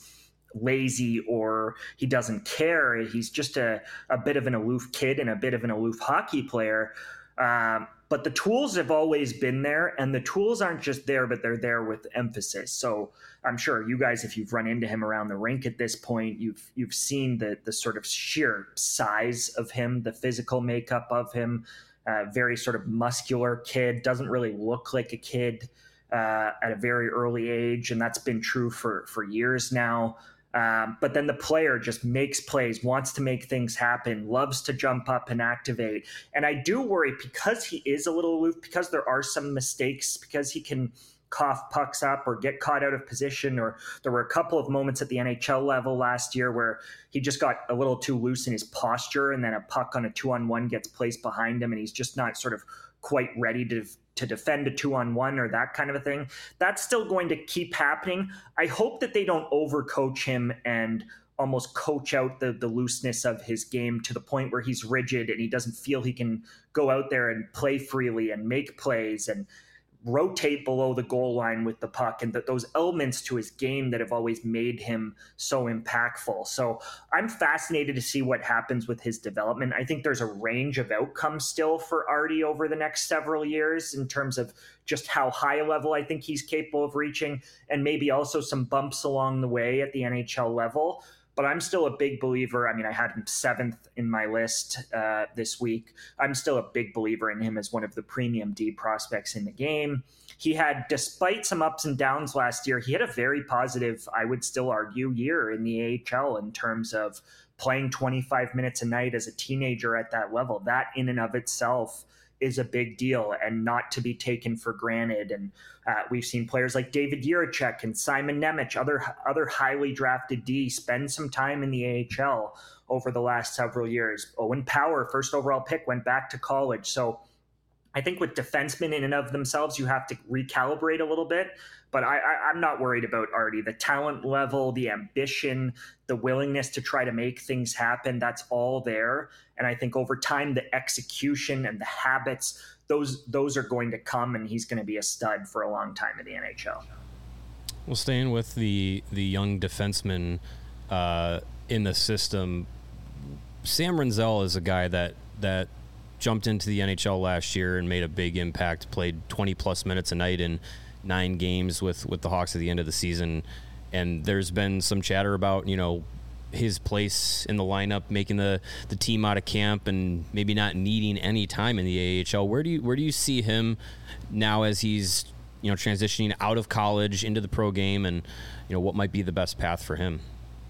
lazy or he doesn't care. He's just a, a bit of an aloof kid and a bit of an aloof hockey player. Um, but the tools have always been there, and the tools aren't just there, but they're there with emphasis. So I'm sure you guys, if you've run into him around the rink at this point, you've you've seen the the sort of sheer size of him, the physical makeup of him. Uh, very sort of muscular kid, doesn't really look like a kid uh, at a very early age, and that's been true for for years now. Um, but then the player just makes plays, wants to make things happen, loves to jump up and activate. And I do worry, because he is a little aloof, because there are some mistakes, because he can cough pucks up or get caught out of position, or there were a couple of moments at the N H L level last year where he just got a little too loose in his posture, and then a puck on a two-on-one gets placed behind him, and he's just not sort of quite ready to to defend a two-on-one or that kind of a thing. That's still going to keep happening. I hope that they don't overcoach him and almost coach out the the looseness of his game to the point where he's rigid and he doesn't feel he can go out there and play freely and make plays and rotate below the goal line with the puck, and that those elements to his game that have always made him so impactful. So I'm fascinated to see what happens with his development. I think there's a range of outcomes still for Artie over the next several years in terms of just how high a level I think he's capable of reaching, and maybe also some bumps along the way at the N H L level. But I'm still a big believer. I mean, I had him seventh in my list uh, this week. I'm still a big believer in him as one of the premium D prospects in the game. He had, despite some ups and downs last year, he had a very positive, I would still argue, year in the A H L in terms of playing twenty-five minutes a night as a teenager at that level. That in and of itself is a big deal and not to be taken for granted. And uh, we've seen players like David Jiricek and Simon Nemec, other other highly drafted D, spend some time in the A H L over the last several years. Owen Power, first overall pick, went back to college. So I think with defensemen in and of themselves, you have to recalibrate a little bit. But I, I, I'm not worried about Artie. The talent level, the ambition, the willingness to try to make things happen, that's all there. And I think over time, the execution and the habits, those those are going to come, and he's going to be a stud for a long time in the N H L. Well, staying with the, the young defenseman uh, in the system, Sam Rinzel is a guy that that jumped into the N H L last year and made a big impact, played twenty-plus minutes a night in nine games with, with the Hawks at the end of the season. And there's been some chatter about, you know, his place in the lineup, making the, the team out of camp and maybe not needing any time in the A H L. Where do you where do you see him now as he's, you know, transitioning out of college into the pro game, and, you know, what might be the best path for him?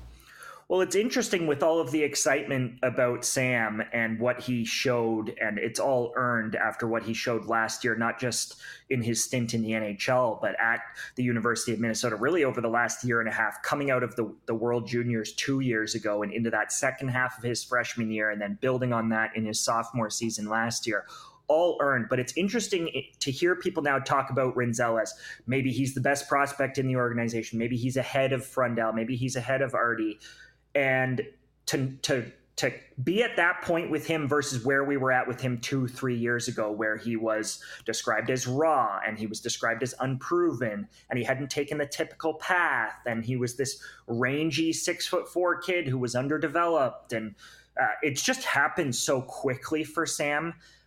Well, it's interesting with all of the excitement about Sam and what he showed, and it's all earned after what he showed last year, not just in his stint in the N H L, but at the University of Minnesota, really over the last year and a half, coming out of the, the World Juniors two years ago and into that second half of his freshman year, and then building on that in his sophomore season last year. All earned. But it's interesting to hear people now talk about Rinzel as maybe he's the best prospect in the organization. Maybe he's ahead of Frundell. Maybe he's ahead of Artie. And to to to be at that point with him versus where we were at with him two, three years ago, where he was described as raw and he was described as unproven and he hadn't taken the typical path and he was this rangy six foot four kid who was underdeveloped. And uh, it's just happened so quickly for Sam.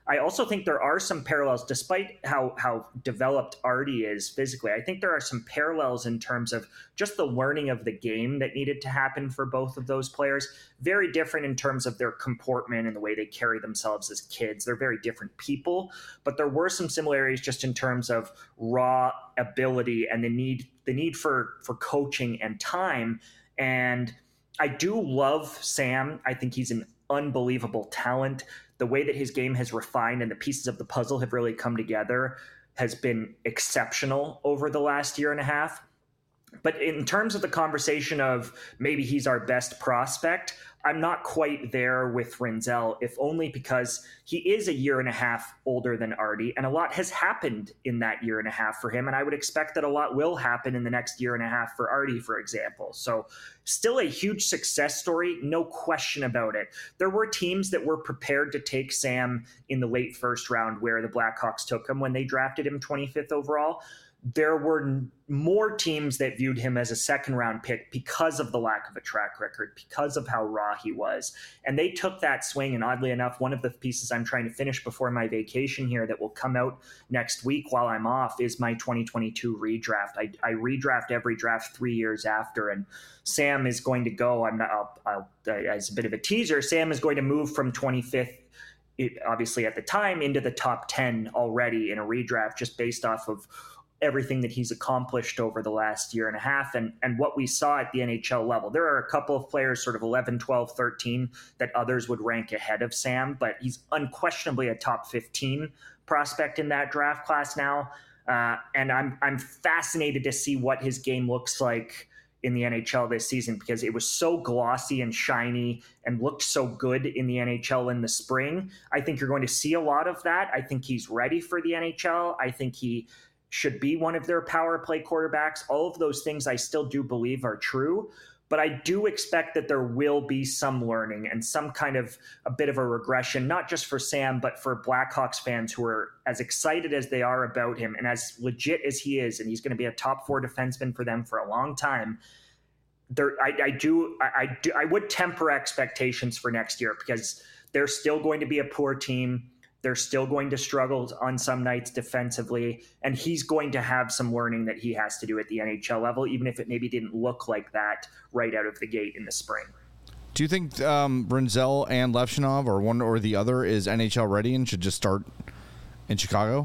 I also think there are some parallels, despite how how developed Artie is physically. I think there are some parallels in terms of just the learning of the game that needed to happen for both of those players. Very different in terms of their comportment and the way they carry themselves as kids. They're very different people, but there were some similarities just in terms of raw ability and the need the need for for coaching and time. And I do love Sam. I think he's an unbelievable talent. The way that his game has refined and the pieces of the puzzle have really come together has been exceptional over the last year and a half. But in terms of the conversation of maybe he's our best prospect, I'm not quite there with Rinzel, if only because he is a year and a half older than Artie, and a lot has happened in that year and a half for him. And I would expect that a lot will happen in the next year and a half for Artie, for example. So still a huge success story, no question about it. There were teams that were prepared to take Sam in the late first round where the Blackhawks took him when they drafted him twenty-fifth overall. There were more teams that viewed him as a second round pick because of the lack of a track record, because of how raw he was. And they took that swing. And oddly enough, one of the pieces I'm trying to finish before my vacation here that will come out next week while I'm off is my twenty twenty-two redraft. I, I redraft every draft three years after. And Sam is going to go, I'm not, I'll, I'll, as a bit of a teaser, Sam is going to move from twenty-fifth, it, obviously at the time, into the top ten already in a redraft, just based off of everything that he's accomplished over the last year and a half and, and what we saw at the N H L level. There are a couple of players sort of eleven, twelve, thirteen that others would rank ahead of Sam, but he's unquestionably a top fifteen prospect in that draft class now. Uh, and I'm I'm fascinated to see what his game looks like in the N H L this season, because it was so glossy and shiny and looked so good in the N H L in the spring. I think you're going to see a lot of that. I think he's ready for the N H L. I think he should be one of their power play quarterbacks. All of those things I still do believe are true, but I do expect that there will be some learning and some kind of a bit of a regression, not just for Sam, but for Blackhawks fans who are as excited as they are about him and as legit as he is, and he's going to be a top four defenseman for them for a long time. There, I, I do, I, I do, I would temper expectations for next year because they're still going to be a poor team. They're still going to struggle on some nights defensively, and he's going to have some learning that he has to do at the N H L level, even if it maybe didn't look like that right out of the gate in the spring. Do you think um, Rinzel and Levshunov, or one or the other, is N H L ready and should just start in Chicago?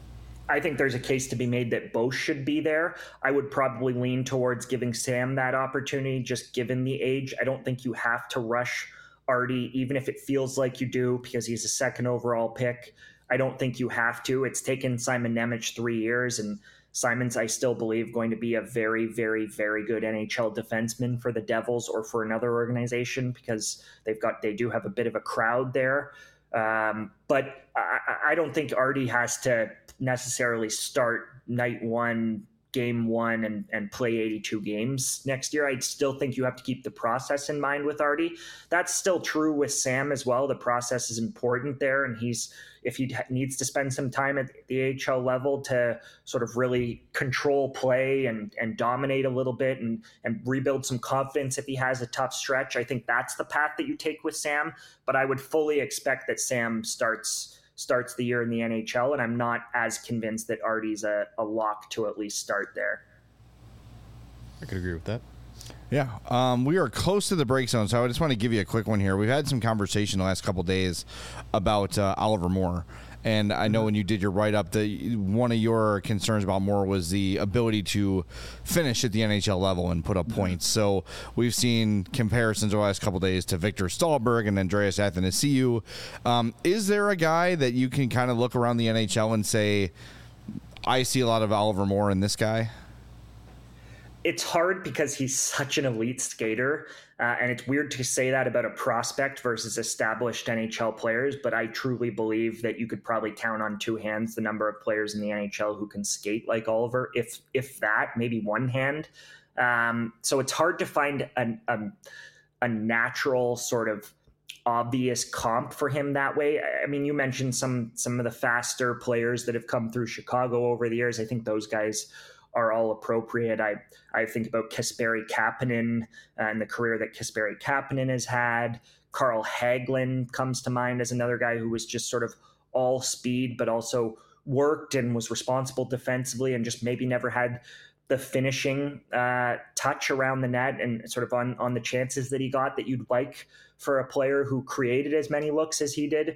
I think there's a case to be made that both should be there. I would probably lean towards giving Sam that opportunity, just given the age. I don't think you have to rush Artie, even if it feels like you do, because he's a second overall pick. I don't think you have to. It's taken Simon Nemec three years, and Simon's, I still believe, going to be a very, very, very good N H L defenseman for the Devils or for another organization, because they've got they do have a bit of a crowd there. Um, but I, I don't think Artie has to necessarily start night one, game one, and, and play eighty-two games next year. I still think you have to keep the process in mind with Artie. That's still true with Sam as well. The process is important there, and he's if he needs to spend some time at the A H L level to sort of really control play and, and dominate a little bit and, and rebuild some confidence if he has a tough stretch, I think that's the path that you take with Sam. But I would fully expect that Sam starts starts the year in the N H L, and I'm not as convinced that Artie's a, a lock to at least start there. I could agree with that. Yeah, um, we are close to the break zone, so I just want to give you a quick one here. We've had some conversation the last couple days about uh, Oliver Moore, and I know when you did your write-up, the one of your concerns about Moore was the ability to finish at the N H L level and put up points. So we've seen comparisons over the last couple days to Victor Stahlberg and Andreas Athanasiou. Um, is there a guy that you can kind of look around the N H L and say, I see a lot of Oliver Moore in this guy? It's hard because he's such an elite skater, uh, and it's weird to say that about a prospect versus established N H L players, but I truly believe that you could probably count on two hands the number of players in the N H L who can skate like Oliver, if if that, maybe one hand. Um, so it's hard to find an, a, a natural sort of obvious comp for him that way. I mean, you mentioned some some of the faster players that have come through Chicago over the years. I think those guys are all appropriate. I, I think about Kasperi Kapanen and the career that Kasperi Kapanen has had. Carl Hagelin comes to mind as another guy who was just sort of all speed, but also worked and was responsible defensively and just maybe never had the finishing uh, touch around the net and sort of on, on the chances that he got that you'd like for a player who created as many looks as he did.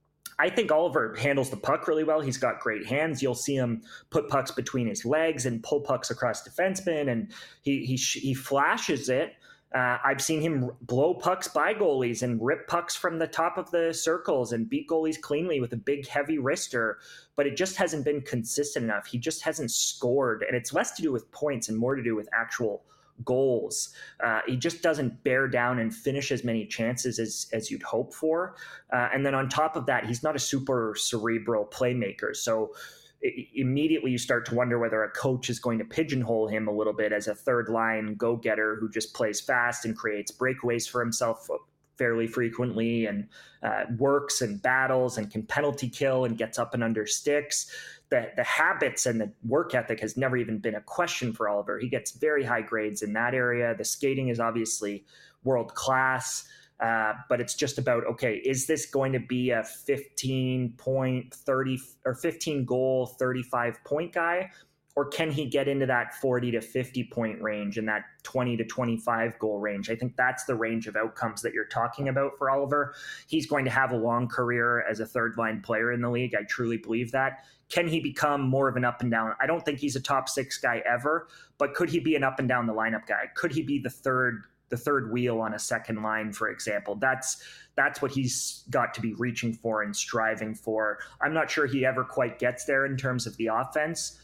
I think Oliver handles the puck really well. He's got great hands. You'll see him put pucks between his legs and pull pucks across defensemen, and he he he flashes it. Uh, I've seen him blow pucks by goalies and rip pucks from the top of the circles and beat goalies cleanly with a big, heavy wrister, but it just hasn't been consistent enough. He just hasn't scored, and it's less to do with points and more to do with actual goals. Uh, he just doesn't bear down and finish as many chances as, as you'd hope for. Uh, and then on top of that, he's not a super cerebral playmaker. So it, immediately you start to wonder whether a coach is going to pigeonhole him a little bit as a third line go-getter who just plays fast and creates breakaways for himself fairly frequently and uh, works and battles and can penalty kill and gets up and under sticks. The, the habits and the work ethic has never even been a question for Oliver. He gets very high grades in that area. The skating is obviously world class, uh, but it's just about, okay, is this going to be a fifteen point thirty or fifteen goal, thirty-five point guy? Or can he get into that forty to fifty point range and that twenty to twenty-five goal range? I think that's the range of outcomes that you're talking about for Oliver. He's going to have a long career as a third line player in the league. I truly believe that. Can he become more of an up and down? I don't think he's a top six guy ever, but could he be an up and down the lineup guy? Could he be the third the third wheel on a second line, for example? That's that's what he's got to be reaching for and striving for. I'm not sure he ever quite gets there in terms of the offense.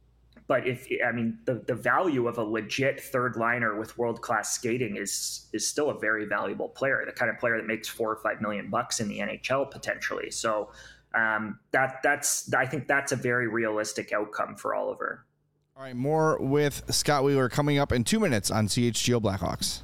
But if, I mean, the, the value of a legit third liner with world-class skating is is still a very valuable player, the kind of player that makes four or five million bucks in the N H L potentially. So um, that that's I think that's a very realistic outcome for Oliver. All right, more with Scott Wheeler coming up in two minutes on C H G O Blackhawks.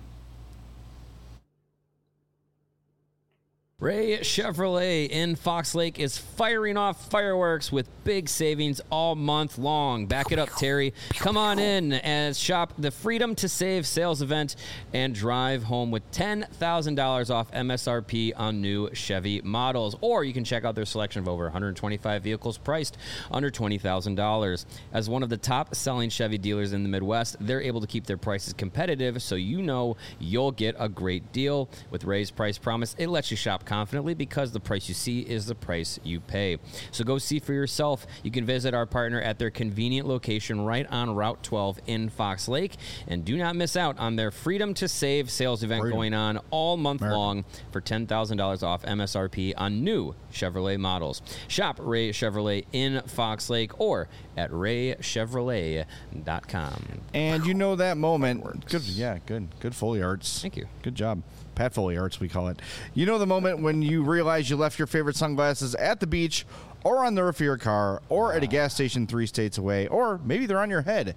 Ray Chevrolet in Fox Lake is firing off fireworks with big savings all month long. Back it up, Terry. Come on in and shop the Freedom to Save sales event and drive home with ten thousand dollars off M S R P on new Chevy models. Or you can check out their selection of over one hundred twenty-five vehicles priced under twenty thousand dollars. As one of the top-selling Chevy dealers in the Midwest, they're able to keep their prices competitive, so you know you'll get a great deal. With Ray's Price Promise, it lets you shop confidently because the price you see is the price you pay. So go see for yourself. You can visit our partner at their convenient location right on Route twelve in Fox Lake. And do not miss out on their Freedom to Save sales event Freedom. going on all month America. long for ten thousand dollars off M S R P on new Chevrolet models. Shop Ray Chevrolet in Fox Lake or at ray chevrolet dot com. And you know that moment. Good, yeah, good. Good Foley Arts. Thank you. Good job. Pat Foley Arts, we call it. You know the moment when you realize you left your favorite sunglasses at the beach or on the roof of your car or at a gas station three states away, or maybe they're on your head.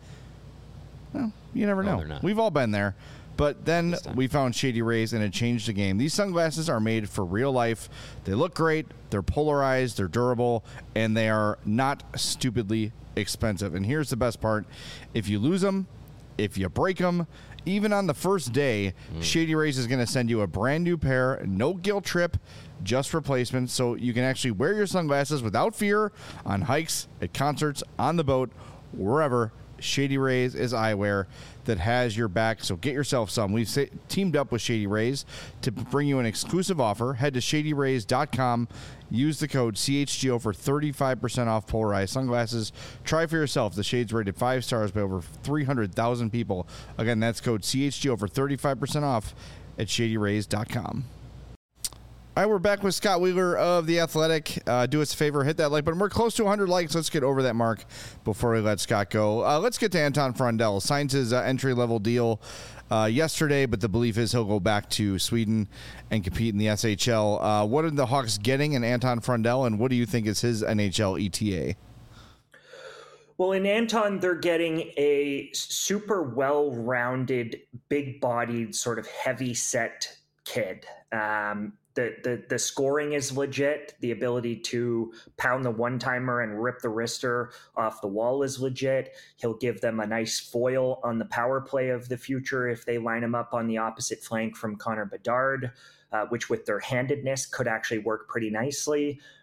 Well, you never No, know. they're not. We've all been there. But then we found Shady Rays, and it changed the game. These sunglasses are made for real life. They look great. They're polarized. They're durable. And they are not stupidly expensive. And here's the best part. If you lose them, if you break them, even on the first day, mm. Shady Rays is going to send you a brand new pair, no guilt trip, just replacements, so you can actually wear your sunglasses without fear on hikes, at concerts, on the boat, wherever. Shady Rays is eyewear that has your back, so get yourself some. We've sa- teamed up with Shady Rays to bring you an exclusive offer. Head to shady rays dot com. Use the code C H G O for thirty-five percent off polarized sunglasses. Try for yourself. The shade's rated five stars by over three hundred thousand people. Again, that's code C H G O for thirty-five percent off at shady rays dot com. All right, we're back with Scott Wheeler of The Athletic. Uh, do us a favor, hit that like button. We're close to one hundred likes. Let's get over that mark before we let Scott go. Uh, let's get to Anton Frondell. Signs his uh, entry-level deal uh, yesterday, but the belief is he'll go back to Sweden and compete in the S H L. Uh, what are the Hawks getting in Anton Frondell, and what do you think is his N H L E T A? Well, in Anton, they're getting a super well-rounded, big-bodied, sort of heavy-set kid. Um, The, the the scoring is legit. The ability to pound the one-timer and rip the wrister off the wall is legit. He'll give them a nice foil on the power play of the future if they line him up on the opposite flank from Connor Bedard, uh, which with their handedness could actually work pretty nicely.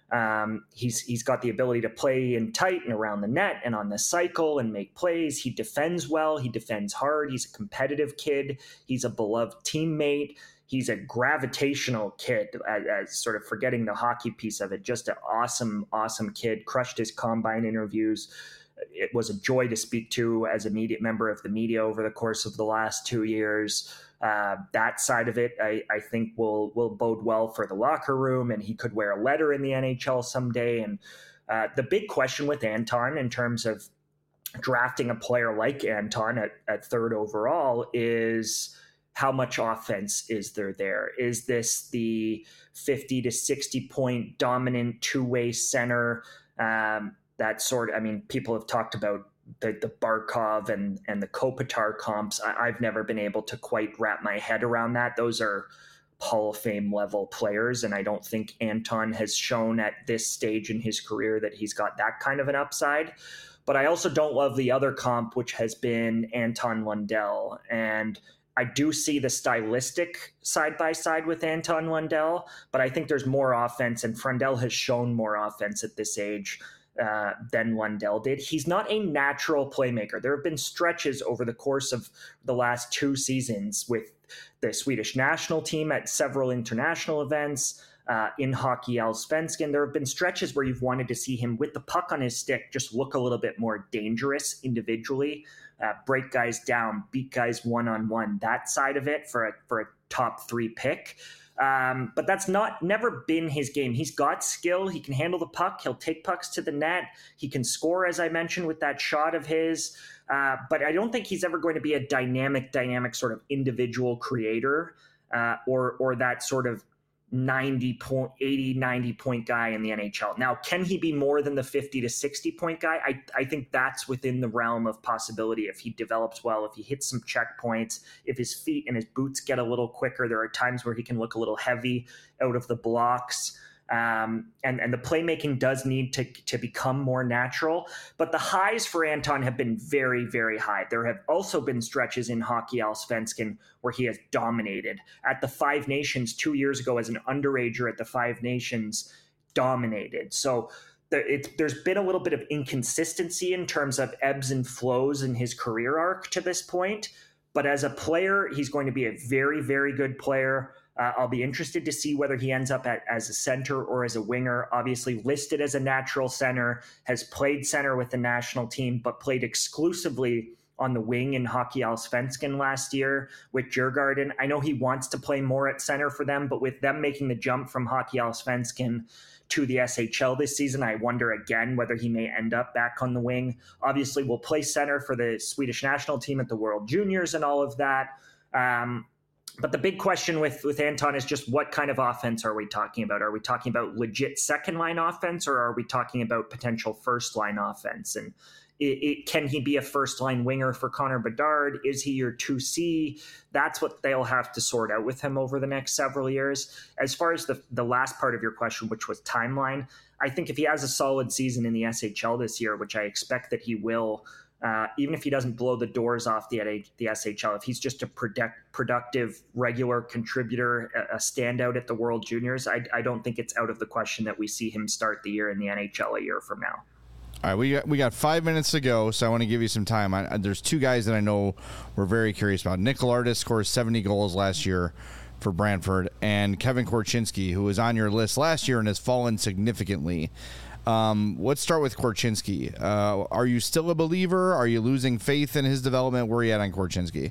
Um, he's he's got the ability to play in tight and around the net and on the cycle and make plays. He defends well. He defends hard. He's a competitive kid. He's a beloved teammate. He's a gravitational kid, as, as sort of forgetting the hockey piece of it. Just an awesome, awesome kid. Crushed his combine interviews. It was a joy to speak to as a media member of the media over the course of the last two years. Uh, that side of it, I, I think, will will bode well for the locker room, and he could wear a letter in the N H L someday. And uh, the big question with Anton in terms of drafting a player like Anton at, at third overall is how much offense is there there? Is this the fifty to sixty point dominant two-way center? Um, that sort of, I mean, people have talked about the, the Barkov and, and the Kopitar comps. I, I've never been able to quite wrap my head around that. Those are Hall of Fame level players. And I don't think Anton has shown at this stage in his career that he's got that kind of an upside. But I also don't love the other comp, which has been Anton Lundell. And I do see the stylistic side by side with Anton Lundell, but I think there's more offense, and Frundell has shown more offense at this age Uh, than Lundell did. He's not a natural playmaker. There have been stretches over the course of the last two seasons with the Swedish national team at several international events, uh, in Hockey Allsvenskan. There have been stretches where you've wanted to see him with the puck on his stick just look a little bit more dangerous individually, uh, break guys down, beat guys one-on-one, that side of it for a, for a top three pick. Um, but that's not never been his game. He's got skill. He can handle the puck. He'll take pucks to the net. He can score, as I mentioned, with that shot of his. Uh, but I don't think he's ever going to be a dynamic, dynamic sort of individual creator uh, or or that sort of ninety point, eighty, ninety point guy in the N H L. Now, can he be more than the fifty to sixty point guy? I, I think that's within the realm of possibility if he develops well, if he hits some checkpoints, if his feet and his boots get a little quicker. There are times where he can look a little heavy out of the blocks. Um, and, and the playmaking does need to, to become more natural. But the highs for Anton have been very, very high. There have also been stretches in Hockey Allsvenskan where he has dominated. At the Five Nations two years ago as an underager at the Five Nations, dominated. So there, it, there's been a little bit of inconsistency in terms of ebbs and flows in his career arc to this point. But as a player, he's going to be a very, very good player. Uh, I'll be interested to see whether he ends up at, as a center or as a winger. Obviously listed as a natural center, has played center with the national team, but played exclusively on the wing in Hockey Allsvenskan last year with Djurgården. I know he wants to play more at center for them, but with them making the jump from Hockey Allsvenskan to the S H L this season, I wonder again whether he may end up back on the wing. Obviously, we'll play center for the Swedish national team at the World Juniors and all of that. Um, But the big question with, with Anton is just what kind of offense are we talking about? Are we talking about legit second-line offense, or are we talking about potential first-line offense? And it, it, can he be a first-line winger for Connor Bedard? Is he your two C? That's what they'll have to sort out with him over the next several years. As far as the, the last part of your question, which was timeline, I think if he has a solid season in the S H L this year, which I expect that he will, Uh, even if he doesn't blow the doors off the, the S H L, if he's just a product, productive, regular contributor, a, a standout at the World Juniors, I, I don't think it's out of the question that we see him start the year in the N H L a year from now. All right, we got, we got five minutes to go, so I want to give you some time. I, there's two guys that I know we're very curious about. Nick Lardis scores seventy goals last year for Brantford, and Kevin Korchinski, who was on your list last year and has fallen significantly. Um, let's start with Korchinski. Uh, are you still a believer? Are you losing faith in his development? Where are you at on Korchinski?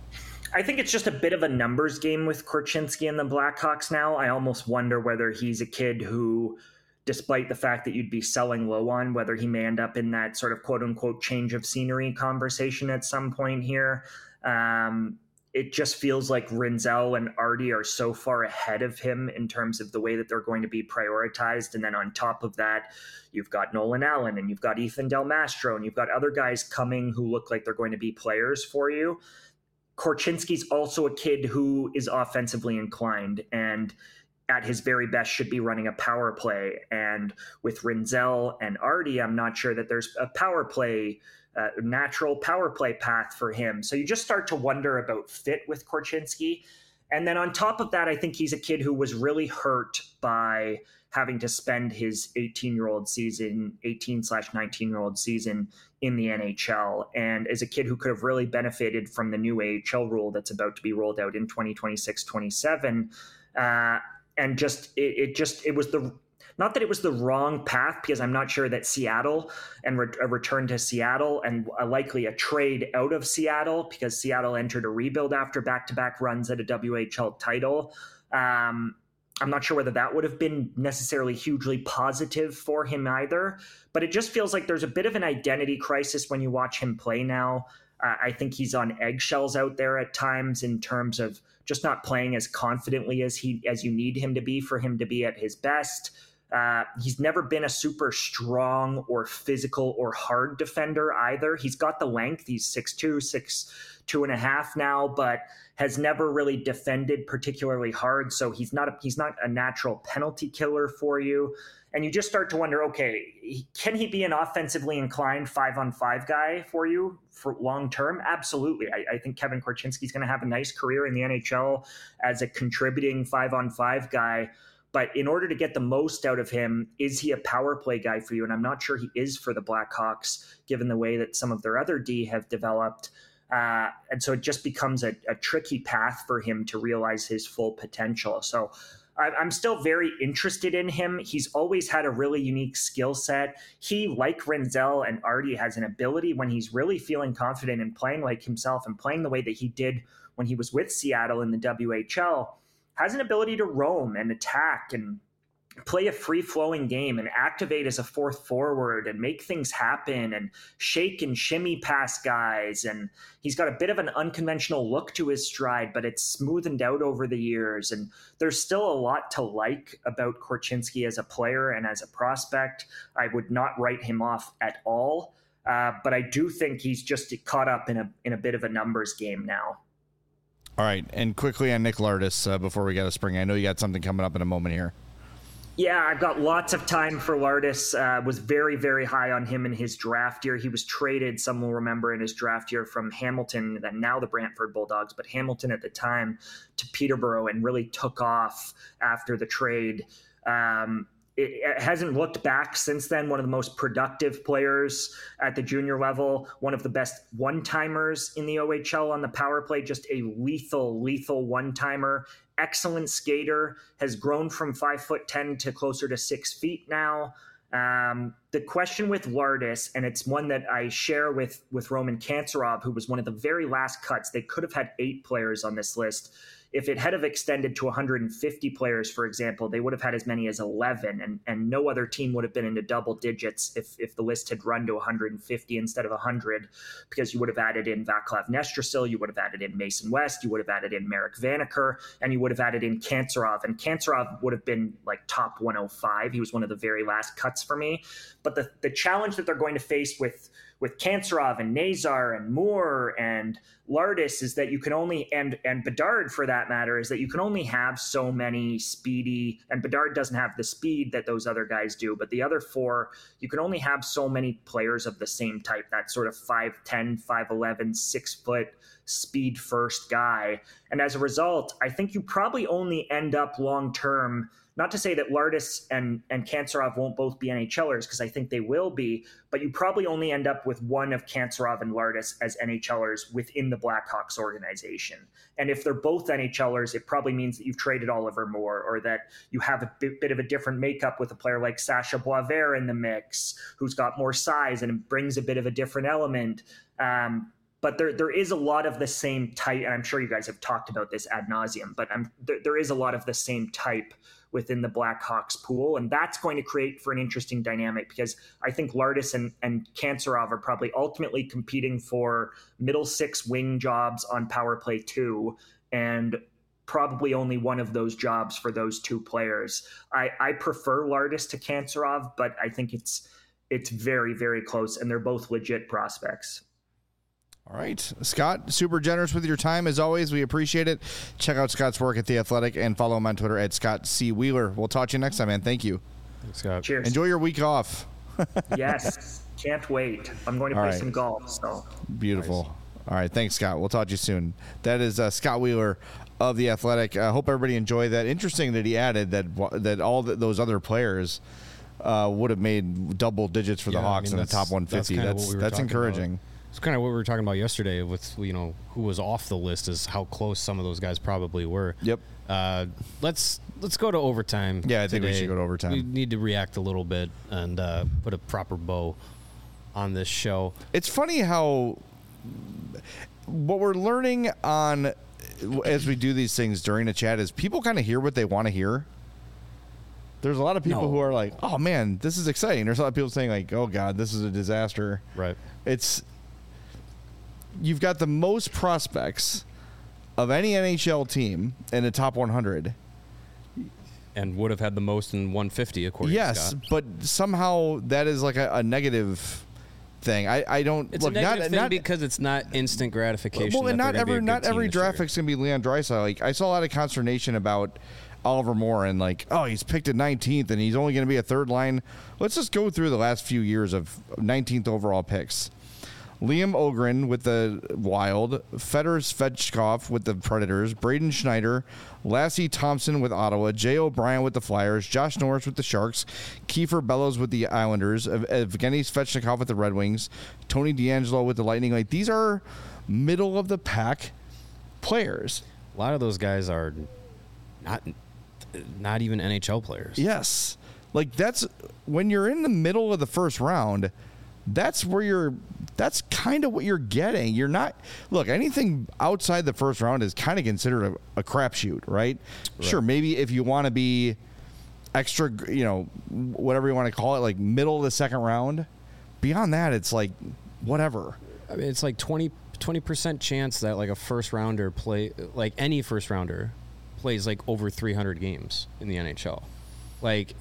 I think it's just a bit of a numbers game with Korchinski and the Blackhawks now. I almost wonder whether he's a kid who, despite the fact that you'd be selling low on, whether he may end up in that sort of quote-unquote change of scenery conversation at some point here. Um, it just feels like Rinzel and Artie are so far ahead of him in terms of the way that they're going to be prioritized. And then on top of that, you've got Nolan Allen and you've got Ethan Del Mastro and you've got other guys coming who look like they're going to be players for you. Korchinski's also a kid who is offensively inclined and at his very best should be running a power play. And with Rinzel and Artie, I'm not sure that there's a power play Uh, natural power play path for him. So you just start to wonder about fit with Korchinski. And then on top of that, I think he's a kid who was really hurt by having to spend his eighteen-year-old season, eighteen slash nineteen-year-old season in the N H L. And as a kid who could have really benefited from the new A H L rule that's about to be rolled out in twenty twenty-six twenty-seven, uh, and just it, it just it was the not that it was the wrong path, because I'm not sure that Seattle and re- a return to Seattle and a likely a trade out of Seattle, because Seattle entered a rebuild after back-to-back runs at a W H L title. Um, I'm not sure whether that would have been necessarily hugely positive for him either, but it just feels like there's a bit of an identity crisis when you watch him play now. Uh, I think he's on eggshells out there at times in terms of just not playing as confidently as he as you need him to be for him to be at his best. Uh, he's never been a super strong or physical or hard defender either. He's got the length. He's six two, six two and a half now, but has never really defended particularly hard. So he's not a, he's not a natural penalty killer for you. And you just start to wonder, okay, can he be an offensively inclined five on five guy for you for long term? Absolutely. I, I think Kevin Korchinski is going to have a nice career in the N H L as a contributing five on five guy. But in order to get the most out of him, is he a power play guy for you? And I'm not sure he is for the Blackhawks, given the way that some of their other D have developed. Uh, and so it just becomes a, a tricky path for him to realize his full potential. So I, I'm still very interested in him. He's always had a really unique skill set. He, like Renzel and Artie, has an ability when he's really feeling confident and playing like himself and playing the way that he did when he was with Seattle in the W H L, has an ability to roam and attack and play a free-flowing game and activate as a fourth forward and make things happen and shake and shimmy past guys. And he's got a bit of an unconventional look to his stride, but it's smoothened out over the years. And there's still a lot to like about Korchinski as a player and as a prospect. I would not write him off at all. Uh, but I do think he's just caught up in a in a bit of a numbers game now. All right. And quickly on Nick Lardis uh, before we get to spring. I know you got something coming up in a moment here. Yeah, I've got lots of time for Lardis. Uh, was very, very high on him in his draft year. He was traded, some will remember, in his draft year from Hamilton, and now the Brantford Bulldogs, but Hamilton at the time, to Peterborough, and really took off after the trade. Um, it, it hasn't looked back since then. One of the most productive players at the junior level, one of the best one-timers in the O H L on the power play, just a lethal, lethal one-timer. Excellent skater, has grown from five foot ten to closer to six feet now. Um, the question with Lardis, and it's one that I share with, with Roman Kantsarov, who was one of the very last cuts. They could have had eight players on this list. If it had have extended to one hundred fifty players, for example, they would have had as many as eleven, and, and no other team would have been into double digits if, if the list had run to one hundred fifty instead of one hundred, because you would have added in Vaclav Nestrasil, you would have added in Mason West, you would have added in Marek Vanacker, and you would have added in Kantsarov, and Kantsarov would have been like top one oh five. He was one of the very last cuts for me. But the, the challenge that they're going to face with with Kantsarov and Nazar and Moore and Lardis is that you can only, and and Bedard for that matter, is that you can only have so many speedy, and Bedard doesn't have the speed that those other guys do, but the other four, you can only have so many players of the same type, that sort of five ten, five eleven, six foot speed first guy. And as a result, I think you probably only end up long term. Not to say that Lardis and, and Kantsarov won't both be NHLers, because I think they will be, but you probably only end up with one of Kantsarov and Lardis as NHLers within the Blackhawks organization. And if they're both NHLers, it probably means that you've traded Oliver Moore, or that you have a bit, bit of a different makeup with a player like Sasha Boisvert in the mix, who's got more size and brings a bit of a different element. Um, But there, there is a lot of the same type, and I'm sure you guys have talked about this ad nauseum, but I'm, there, there is a lot of the same type within the Blackhawks pool, and that's going to create for an interesting dynamic, because I think Lardis and, and Kantsarov are probably ultimately competing for middle six wing jobs on power play two, and probably only one of those jobs for those two players. I, I prefer Lardis to Kantsarov, but I think it's it's very, very close, and they're both legit prospects. All right, Scott, super generous with your time as always. We appreciate it. Check out Scott's work at The Athletic and follow him on Twitter at Scott C. Wheeler. We'll talk to you next time, man. Thank you. Thanks, Scott. Cheers. Enjoy your week off. Yes, can't wait. I'm going to All play right. some golf. So Beautiful. All right, thanks, Scott. We'll talk to you soon. That is uh, Scott Wheeler of The Athletic. I uh, hope everybody enjoyed that. Interesting that he added that that all the, those other players uh, would have made double digits for Yeah, the I Hawks mean, in the top one fifty. That's, That's that's, we that's encouraging. About. It's kind of what we were talking about yesterday with, you know, who was off the list is how close some of those guys probably were. Yep. Uh, let's let's go to overtime. Yeah, I think we today. should go to overtime. We need to react a little bit and uh, put a proper bow on this show. It's funny how what we're learning on as we do these things during the chat is people kind of hear what they want to hear. There's a lot of people No. who are like, "Oh man, this is exciting." There's a lot of people saying like, "Oh god, this is a disaster." Right. It's you've got the most prospects of any N H L team in the top one hundred. And would have had the most in one fifty, according Yes, to Scott. but somehow that is like a, a negative thing. I, I don't It's look a negative not thing not because it's not instant gratification. well, and that not they're gonna be every a good not team every this draft year. pick's gonna be Leon Draisaitl. Like I saw a lot of consternation about Oliver Moore and like, oh, he's picked at nineteenth and he's only going to be a third line. Let's just go through the last few years of nineteenth overall picks. Liam Ogren with the Wild, Fedor Svechkov with the Predators, Braden Schneider, Lassie Thompson with Ottawa, Jay O'Brien with the Flyers, Josh Norris with the Sharks, Kiefer Bellows with the Islanders, Ev- Evgeny Svechnikov with the Red Wings, Tony DeAngelo with the Lightning. Like these are middle of the pack players. A lot of those guys are not not even N H L players. Yes. Like that's when you're in the middle of the first round, that's where you're that's kind of what you're getting. You're not look, anything outside the first round is kind of considered a, a crapshoot, right? right? Sure, maybe if you want to be extra, you know, whatever you want to call it, like middle of the second round. Beyond that, it's like whatever. I mean, it's like twenty percent chance that like a first rounder play like any first rounder plays like over three hundred games in the N H L. Like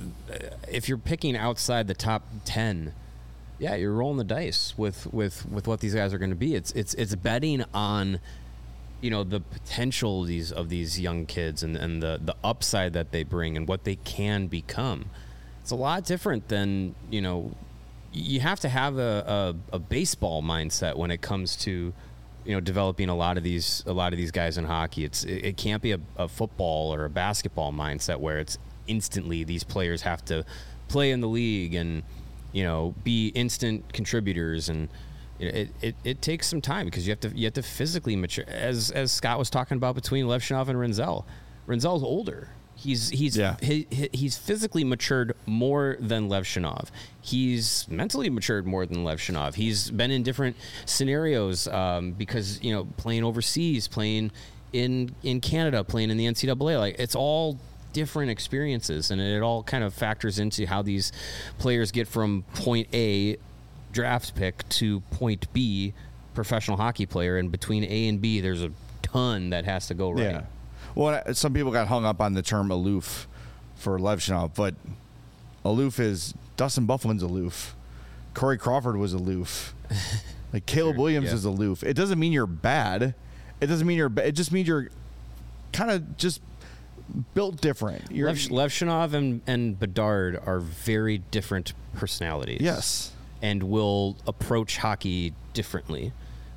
if you're picking outside the top ten, yeah, you're rolling the dice with, with, with what these guys are going to be. It's it's it's betting on, you know, the potential of these of these young kids and, and the, the upside that they bring and what they can become. It's a lot different than, you know, you have to have a, a, a baseball mindset when it comes to, you know, developing a lot of these a lot of these guys in hockey. It's it, it can't be a, a football or a basketball mindset where it's instantly these players have to play in the league and, you know, be instant contributors, and it, it, it takes some time because you have to you have to physically mature. As as Scott was talking about between Levshunov and Renzel, Renzel's older. He's he's Yeah. he, he- he's physically matured more than Levshunov. He's mentally matured more than Levshunov. He's been in different scenarios um, because, you know, playing overseas, playing in in Canada, playing in the N C double A. Like it's all different experiences, and it all kind of factors into how these players get from point A draft pick to point B professional hockey player. And between A and B, there's a ton that has to go right. Yeah. Well, some people got hung up on the term aloof for Levshunov, but aloof is Dustin Bufflin's aloof. Corey Crawford was aloof. Like Caleb Sure, Williams yeah. is aloof. It doesn't mean you're bad. It doesn't mean you're bad. It just means you're kind of just built different. You're Lev, Levshunov and, and Bedard are very different personalities. Yes. And will approach hockey differently.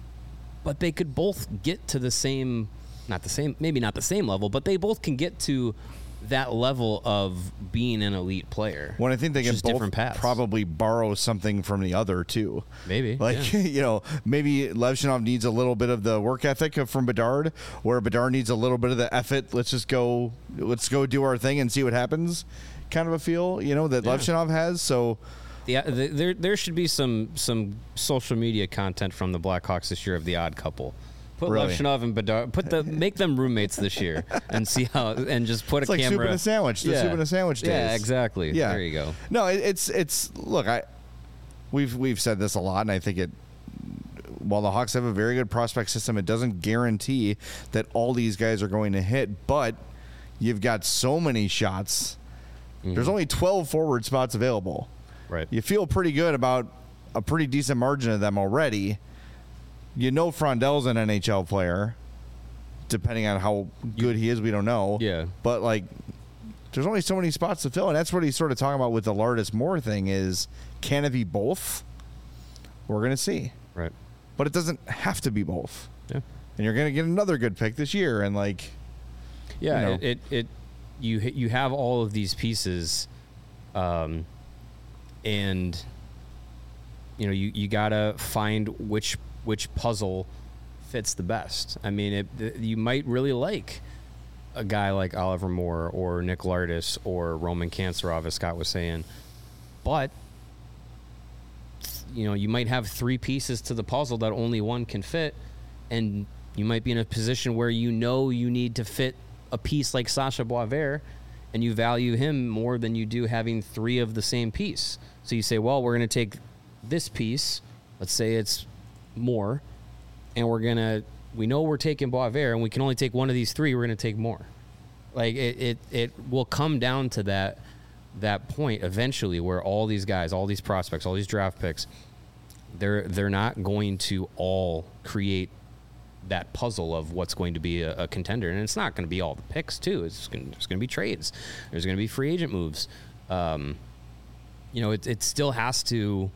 But they could both get to the same, not the same, maybe not the same level, but they both can get to that level of being an elite player. When I think they can just both different paths. probably borrow something from the other too. Maybe, Like, yeah. you know, maybe Levshunov needs a little bit of the work ethic of- from Bedard, where Bedard needs a little bit of the effort. Let's just go, let's go do our thing and see what happens kind of a feel, you know, that Yeah. Levshunov has. So, Yeah, the, there there should be some some social media content from the Blackhawks this year of the odd couple. Put Really? Levshunov and Bedard, put the make them roommates this year and see how, and just put it's a like camera. soup and a sandwich. The soup and a sandwich days. Yeah, exactly. Yeah. There you go. No, it, it's it's look, I we've we've said this a lot, and I think it. While the Hawks have a very good prospect system, it doesn't guarantee that all these guys are going to hit. But you've got so many shots. Mm-hmm. There's only twelve forward spots available. Right. You feel pretty good about a pretty decent margin of them already. You know, Frondel's an N H L player. Depending on how good he is, we don't know. Yeah. But like, there's only so many spots to fill, and that's what he's sort of talking about with the Lardis Moore thing. Is can it be both? We're gonna see. Right. but it doesn't have to be both. Yeah. And you're going to get another good pick this year. And like, yeah, you know. it, it, it, you, you have all of these pieces, um, and you know, you, you gotta find which, which puzzle fits the best. I mean, it, you might really like a guy like Oliver Moore or Nick Lardis or Roman Kanserov, as Scott was saying, but you know, you might have three pieces to the puzzle that only one can fit, and you might be in a position where you know you need to fit a piece like Sasha Boisvert, and you value him more than you do having three of the same piece. So you say, well, we're going to take this piece, let's say it's Moore, and we're going to, we know we're taking Boisvert, and we can only take one of these three, we're going to take Moore. Like, it, it, it will come down to that that point eventually where all these guys, all these prospects, all these draft picks, they're they're not going to all create that puzzle of what's going to be a, a contender. And it's not going to be all the picks, too. It's going, there's going to be trades. There's going to be free agent moves. Um, you know, it, it still has to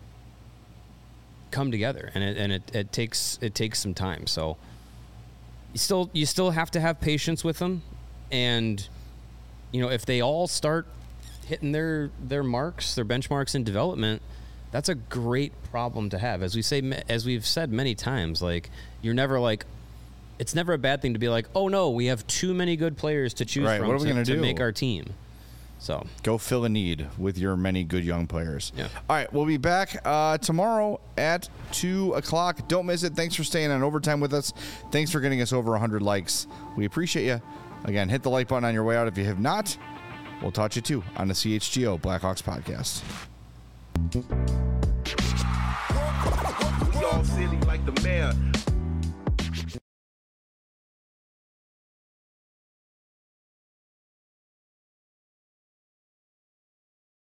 come together, and it and it, it takes it takes some time. So you still you still have to have patience with them, and you know, if they all start hitting their their marks, their benchmarks in development, that's a great problem to have. As we say, as we've said many times, like, you're never like, it's never a bad thing to be like, oh no, we have too many good players to choose right, from what are we to, gonna to do? make our team. So go fill a need with your many good young players. Yeah. All right, we'll be back uh, tomorrow at two o'clock. Don't miss it. Thanks for staying on Overtime with us. Thanks for getting us over one hundred likes. We appreciate you. Again, hit the like button on your way out if you have not. We'll talk to you too on the C H G O Blackhawks podcast. We all silly like the mayor.